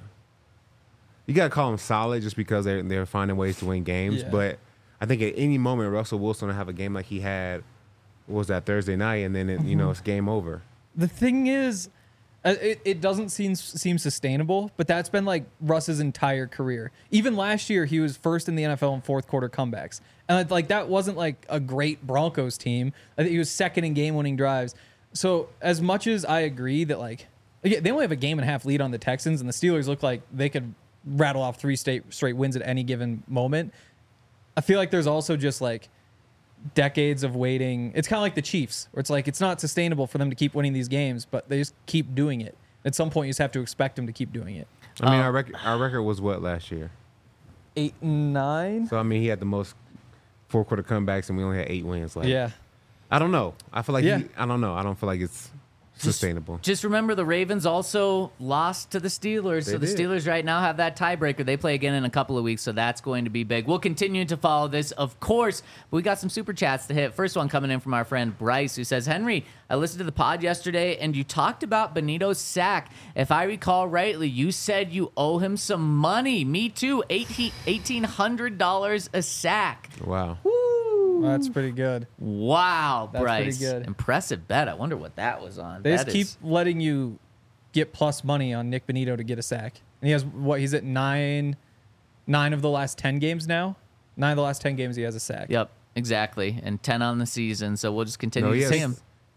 you got to call them solid just because they're they're finding ways to win games. Yeah. But I think at any moment Russell Wilson will have a game like he had. What was that Thursday night? And then it, you know it's game over. The thing is, uh, it, it doesn't seem seem sustainable, but that's been like Russ's entire career. Even last year, he was first in the N F L in fourth quarter comebacks, and it's like that wasn't like a great Broncos team. I think he was second in game winning drives. So as much as I agree that like again, they only have a game and a half lead on the Texans, and the Steelers look like they could rattle off three straight straight wins at any given moment. I feel like there's also just like decades of waiting. It's kind of like the Chiefs, where it's like it's not sustainable for them to keep winning these games, but they just keep doing it. At some point, you just have to expect them to keep doing it. I mean, Uh, our record our record was what last year? Eight and nine. So I mean, he had the most four quarter comebacks, and we only had eight wins. Like, Yeah. I don't know. I feel like Yeah. he, I don't know. I don't feel like it's sustainable. Just remember the Ravens also lost to the Steelers. They so the did. Steelers right now have that tiebreaker. They play again in a couple of weeks, so that's going to be big. We'll continue to follow this, of course. But we got some super chats to hit. First one coming in from our friend Bryce, who says, Henry, I listened to the pod yesterday, and you talked about Benito's sack. If I recall rightly, you said you owe him some money. Me too. eighteen hundred dollars a sack. Wow. That's pretty good. Wow, That's Bryce. pretty good. Impressive bet. I wonder what that was on. They just That keep is- letting you get plus money on Nick Benito to get a sack. And he has what? He's at nine, nine of the last ten games now. Nine of the last ten games he has a sack. Yep, exactly. And ten on the season, so we'll just continue No, he to see has him.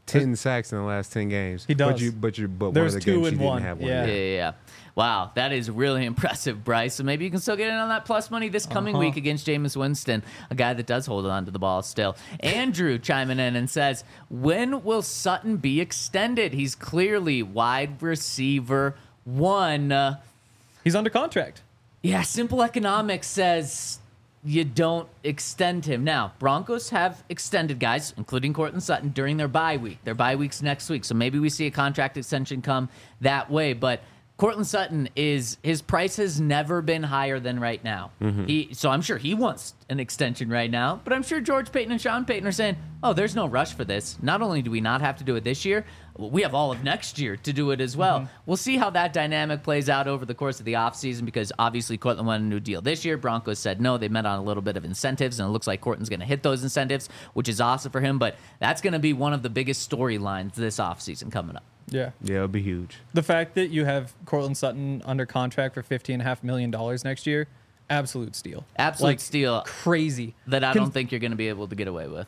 ten sacks in the last ten games. He does. But you, but you, but There's one of the two games and he didn't one. have one. Yeah. Yeah, yeah, yeah. Wow, that is really impressive, Bryce. So maybe you can still get in on that plus money this coming Uh-huh. week against Jameis Winston, a guy that does hold on to the ball still. Andrew chiming in and says, when will Sutton be extended? He's clearly wide receiver one. Uh, He's under contract. yeah, Simple Economics says you don't extend him. Now, Broncos have extended guys, including Cortland Sutton, during their bye week. Their bye week's next week, so maybe we see a contract extension come that way. But Cortland Sutton is his price has never been higher than right now. He so I'm sure he wants an extension right now, but I'm sure George Payton and Sean Payton are saying, "Oh, there's no rush for this. Not only do we not have to do it this year, we have all of next year to do it as well." We'll see how that dynamic plays out over the course of the offseason because obviously Cortland wanted a new deal this year. Broncos said no. They met on a little bit of incentives, and it looks like Cortland's going to hit those incentives, which is awesome for him, but that's going to be one of the biggest storylines this offseason coming up. Yeah. Yeah, it'll be huge. The fact that you have Cortland Sutton under contract for fifteen point five million dollars next year, absolute steal. Absolute Like, steal Crazy. that I Con- don't think you're going to be able to get away with.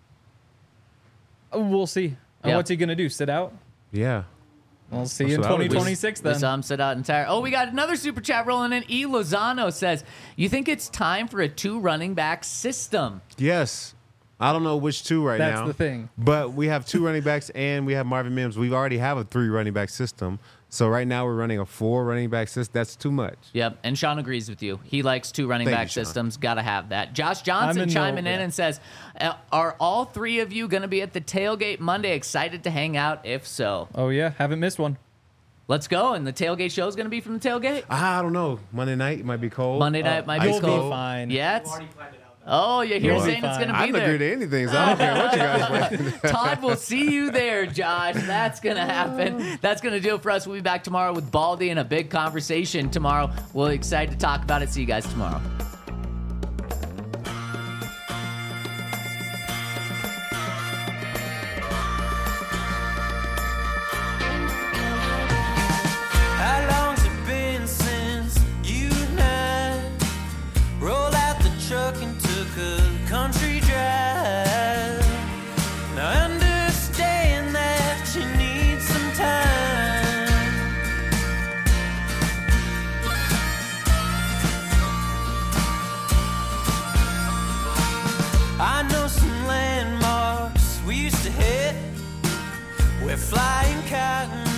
We'll see. And Yeah. what's he going to do? Sit out? Yeah. We'll see That's in what I would twenty do. twenty-six We then. saw him sit out entire. Oh, we got another super chat rolling in. E. Lozano says, you think it's time for a two running back system? Yes. I don't know which two right That's now. the thing. But we have two running backs and we have Marvin Mims. We already have a three running back system. So right now we're running a four running back system. That's too much. Yep, and Sean agrees with you. He likes two running Thank back you, Sean. systems. Got to have that. Josh I'm Johnson in chiming no- in yeah. and says, "Uh, are all three of you going to be at the tailgate Monday? Excited to hang out? If so, Oh, yeah. Haven't missed one. let's go." And the tailgate show is going to be from the tailgate. I don't know. Monday night it might be cold. Monday night might be ice You'll cold. be fine. Yeah. it's- Oh, yeah. You're You'll be saying it's going to I be don't agree there. to anything, so I don't care what you guys want. Todd, we'll see you there, Josh. That's going to happen. That's going to do it for us. We'll be back tomorrow with Baldy and a big conversation tomorrow. We're excited to talk about it. See you guys tomorrow. How long's it been since you and I rolled out the truck and took a country drive? Now I understand that you need some time. I know some landmarks we used to hit where flying cotton